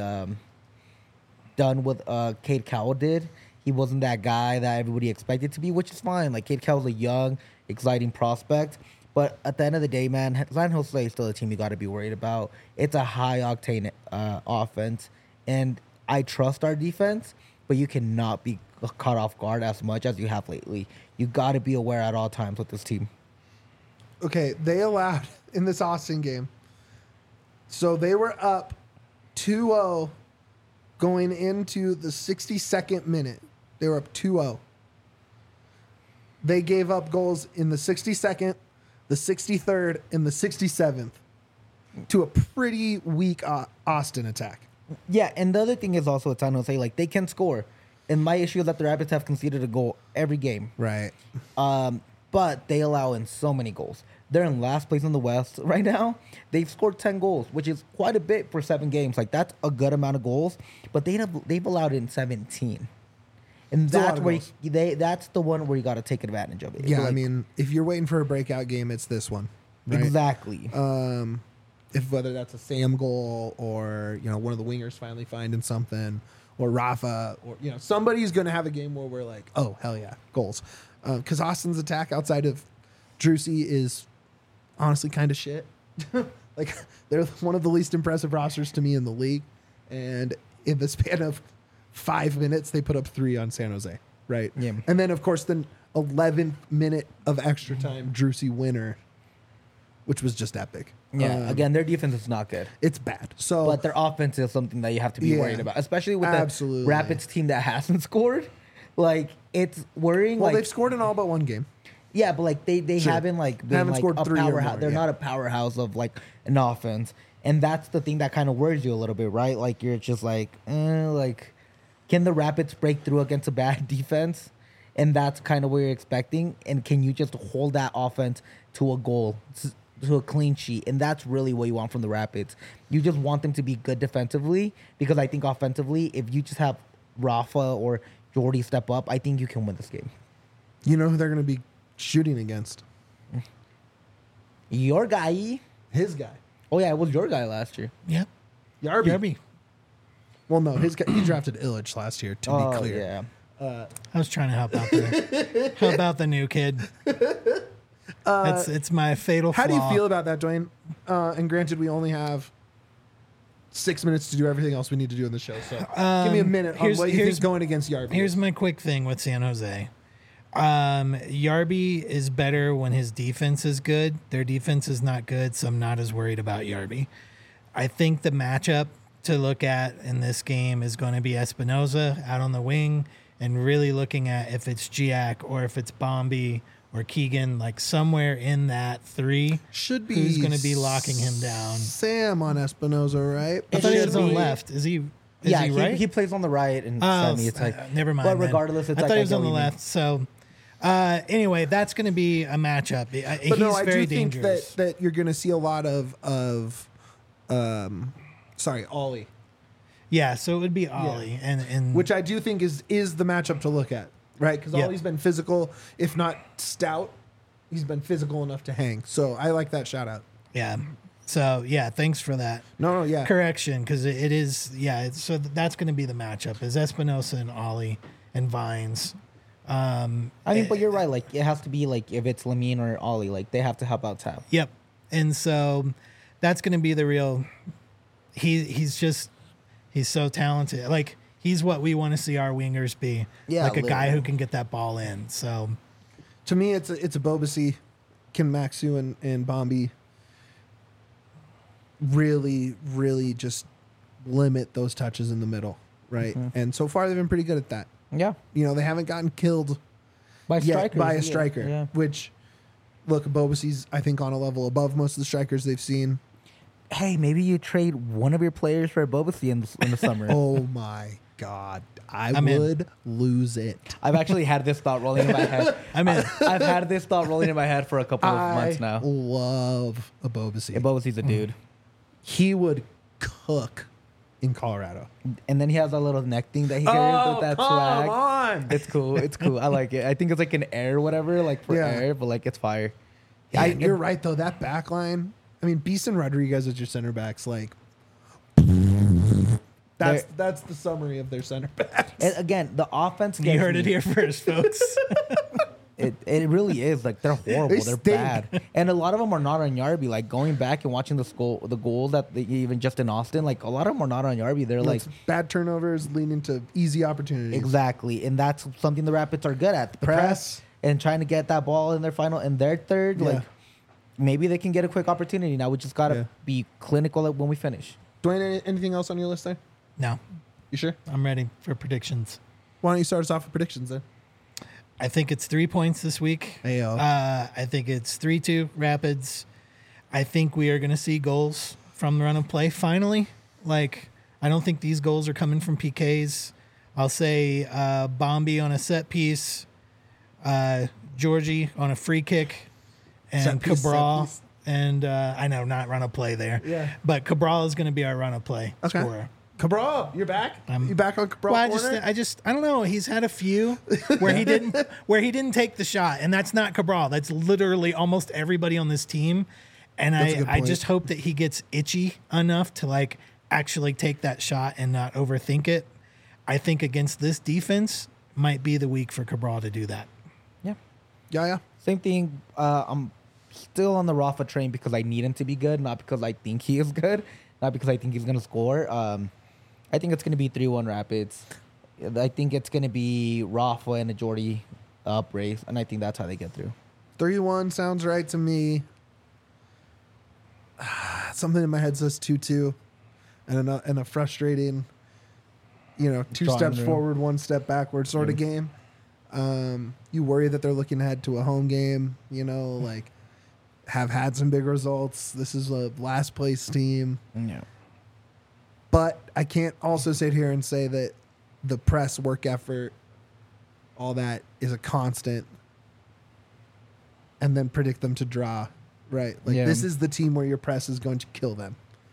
done what Cade Cowell did. He wasn't that guy that everybody expected to be, which is fine. Like Cade Cowell's a young, exciting prospect. But at the end of the day, man, San Jose is still a team you got to be worried about. It's a high octane offense, and I trust our defense, but you cannot be caught off guard as much as you have lately. You got to be aware at all times with this team. Okay, they allowed in this Austin game. So they were up 2-0 going into the 62nd minute. They were up 2-0. They gave up goals in the 62nd, the 63rd, and the 67th to a pretty weak Austin attack. Yeah, and the other thing is also with San Jose, like they can score. And my issue is that the Rapids have conceded a goal every game. Right. But they allow in so many goals. They're in last place in the West right now. They've scored 10 goals, which is quite a bit for 7 games. Like that's a good amount of goals. But they've allowed in 17, and It's a lot that's of where goals. that's the one where you got to take advantage of it. Yeah, Like, I mean, if you're waiting for a breakout game, it's this one. Right? exactly. If whether that's a Sam goal or one of the wingers finally finding something, or Rafa, or somebody's going to have a game where we're like, oh hell yeah, goals. Because Austin's attack outside of Drusy is honestly kind of shit. Like they're one of the least impressive rosters to me in the league, and in the span of 5 minutes they put up 3 on San Jose, right? Yeah. And then of course the 11th minute of extra time Drusy winner, which was just epic. Yeah, again, their defense is not good. It's bad. So But their offense is something that you have to be Yeah. worried about, especially with Absolutely. the Rapids team that hasn't scored. Like it's worrying. well, like they've scored in all but one game. yeah, but like they Sure. haven't like been Haven't like scored a 3 or powerhouse. more, They're yeah. not a powerhouse of like an offense, and that's the thing that kind of worries you a little bit, right? Like you're just like can the Rapids break through against a bad defense? And that's kind of what you're expecting. And can you just hold that offense to a goal, to a clean sheet? And that's really what you want from the Rapids. You just want them to be good defensively, because I think offensively, if you just have Rafa or Jordy step up, I think you can win this game. You know who they're going to be shooting against? Your guy. His guy, Oh, yeah, it was your guy last year. Yep. Yarby. Yarby. Well, no, his guy, he drafted Illich last year. To be clear, yeah. I was trying to help out there. Help out the new kid. It's my fatal How flaw. do you feel about that, Dwayne? And granted, we only have 6 minutes to do everything else we need to do in the show. So give me a minute on here's- what you here's- think going against Yarby. Here's my quick thing with San Jose. Yarby is better when his defense is good. Their defense is not good, so I'm not as worried about Yarby. I think the matchup to look at in this game is going to be Espinoza out on the wing, and really looking at if it's Giac or if it's Bombi or Keegan, like somewhere in that three. Should be Who's going to be locking him down? Sam on Espinoza, right? I It thought he should was on be- left. Is he Yeah, right? he plays on the right and Oh, semi. It's like never mind. But then. regardless, it's I like thought he I was get on the what you mean. left. So anyway, that's going to be a matchup. But He's no, I very do think dangerous. that you're going to see a lot of Ollie, Yeah, so it would be Ollie, and which I do think is the matchup to look at, right? Because Yep. Ollie's been physical, if not stout. He's been physical enough to hang. So I like that shout out. yeah. So yeah, thanks for that No, yeah. correction because it is so that's going to be the matchup is Espinosa and Ollie and Vines. I mean, but you're right. Like it has to be like if it's Lamine or Ollie, like they have to help out Tab. Yep, and so that's going to be the real. He's so talented. Like he's what we want to see our wingers be. Yeah, like a guy literally. who can get that ball in. So To me, it's a Bobasi, Ken Maxu, and Bombi really just limit those touches in the middle, right? And so far, they've been pretty good at that. Yeah, You know, they haven't gotten killed by yet strikers. by a Yeah, striker, Yeah. which, look, Bobasi's, I think, on a level above most of the strikers they've seen. Hey, maybe you trade one of your players for Bobasi in the summer. Oh, my God. I'm in. would lose it. I've actually had this thought rolling in my head. I'm in. I've had this thought rolling in my head for a couple of months I now. love a Bobasi. Yeah, Bobasi's a dude. He would cook in Colorado. And then he has that little neck thing that he carries with that swag. on. It's cool. It's cool. I like it. I think it's like an air or whatever, like for Yeah. air, but like it's fire. You're right, though. That back line, I mean, Beeson Rodriguez as your center backs, like, that's the summary of their center backs. And again, the offense. You gets heard it me. here first, folks. It really is like they're horrible. They They're stink. bad, and a lot of them are not on Yarby. Like going back and watching the goals that they, even just in Austin, like a lot of them are not on Yarby. They're like It's bad turnovers leading to easy opportunities. exactly, and that's something the Rapids are good at: the press, press. and trying to get that ball in their final and their third. Yeah. Like maybe they can get a quick opportunity. Now we just gotta Yeah. be clinical when we finish. Dwayne, anything else on your list there? No, You sure? I'm ready for predictions. Why don't you start us off with predictions then? I think it's 3 points this week. Ayo. I think it's 3-2 Rapids. I think we are going to see goals from the run of play finally. Like, I don't think these goals are coming from PKs. I'll say Bombi on a set piece, Georgie on a free kick, and Set piece, Cabral. set piece. And I know, not run of play there. Yeah. But Cabral is going to be our run of play Okay. scorer. Cabral, you're back? You back on Cabral Well, corner? I don't know. He's had a few where he didn't take the shot, and that's not Cabral. That's literally almost everybody on this team. And That's a good I point. just hope that he gets itchy enough to like actually take that shot and not overthink it. I think against this defense might be the week for Cabral to do that. Yeah. Yeah. Same thing. I'm still on the Rafa train because I need him to be good, not because I think he is good, not because I think he's gonna score. I think it's gonna be 3-1 Rapids. I think it's gonna be Rafa and a Jordy up race, and I think that's how they get through. 3-1 sounds right to me. Something in my head says 2-2. And a frustrating, two Drawing steps room. forward, one step backward sort of game. You worry that they're looking ahead to a home game, like have had some big results. This is a last place team. Yeah. But I can't also sit here and say that the press, work effort, all that is a constant and then predict them to draw, right? Like Yeah. this is the team where your press is going to kill them.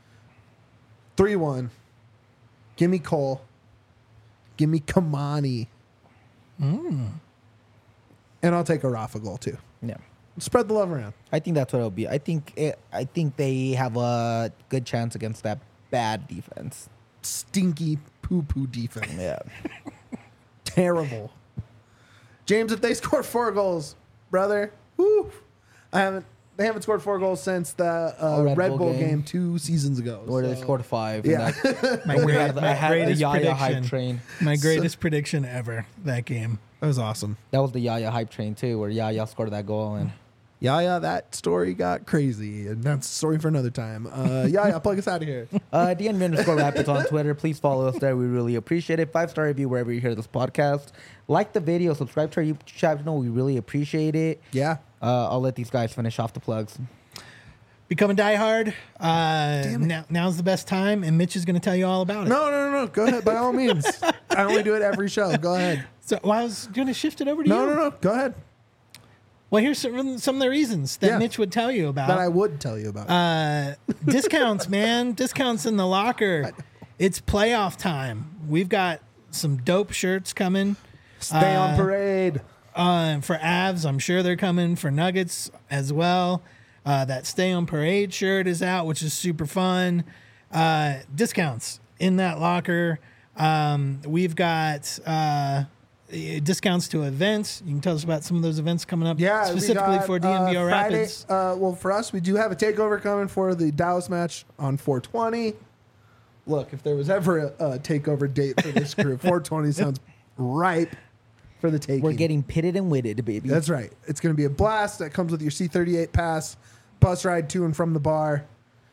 3-1. Give me Cole. Give me Kamani. And I'll take a Rafa goal too. Yeah. Spread the love around. I think that's what it'll be. I think they have a good chance against that bad defense. Stinky poo-poo defense. Yeah. Terrible. James, if they score 4 goals, brother, whoo, they haven't scored 4 goals since the Red Bull game 2 seasons ago. Where they so- scored 5. Yeah. My, I had the greatest Yaya hype prediction. train. My greatest prediction ever that game. That was awesome. That was the Yaya hype train too, where Yaya scored that goal and Yeah, that story got crazy, and that's a story for another time. Yeah, plug us out of here. DNV_Rapids on Twitter. Please follow us there. We really appreciate it. 5-star review wherever you hear this podcast. Like the video. Subscribe to our YouTube channel. We really appreciate it. Yeah. I'll let these guys finish off the plugs. Become a diehard. Now's the best time, and Mitch is going to tell you all about it. No. Go ahead, by all means. I only do it every show. Go ahead. So I was going to shift it over to you. No. Go ahead. Well, here's some of the reasons that Mitch would tell you about. That I would tell you about. Discounts, man. Discounts in the locker. It's playoff time. We've got some dope shirts coming. Stay on parade. For Avs, I'm sure they're coming. For Nuggets as well. That Stay on Parade shirt is out, which is super fun. Discounts in that locker. We've got discounts to events. You can tell us about some of those events coming up, specifically for DNVR Rapids. Well, for us, we do have a takeover coming for the Dallas match on 420. Look, if there was ever a takeover date for this group, 420 sounds ripe for the taking. We're getting pitted and witted, baby. That's right. It's going to be a blast. That comes with your C38 pass, bus ride to and from the bar,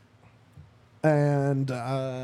and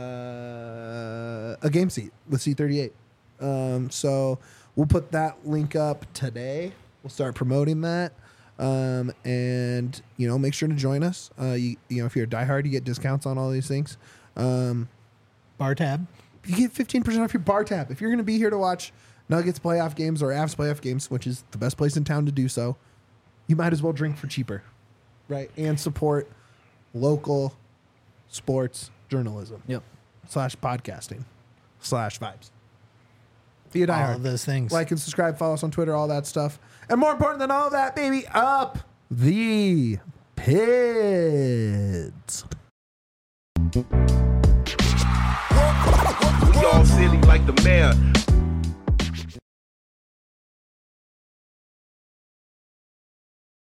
a game seat with C38. So we'll put that link up today. We'll start promoting that. And, make sure to join us. If you're a diehard, you get discounts on all these things. Bar tab. You get 15% off your bar tab. If you're going to be here to watch Nuggets playoff games or Avs playoff games, which is the best place in town to do so, you might as well drink for cheaper, right? And support local sports journalism. Yep. /podcasting /vibes. Be a diehard. All of those things. Like and subscribe, follow us on Twitter, all that stuff. And more important than all that, baby, up the Pids. We all silly like the mayor.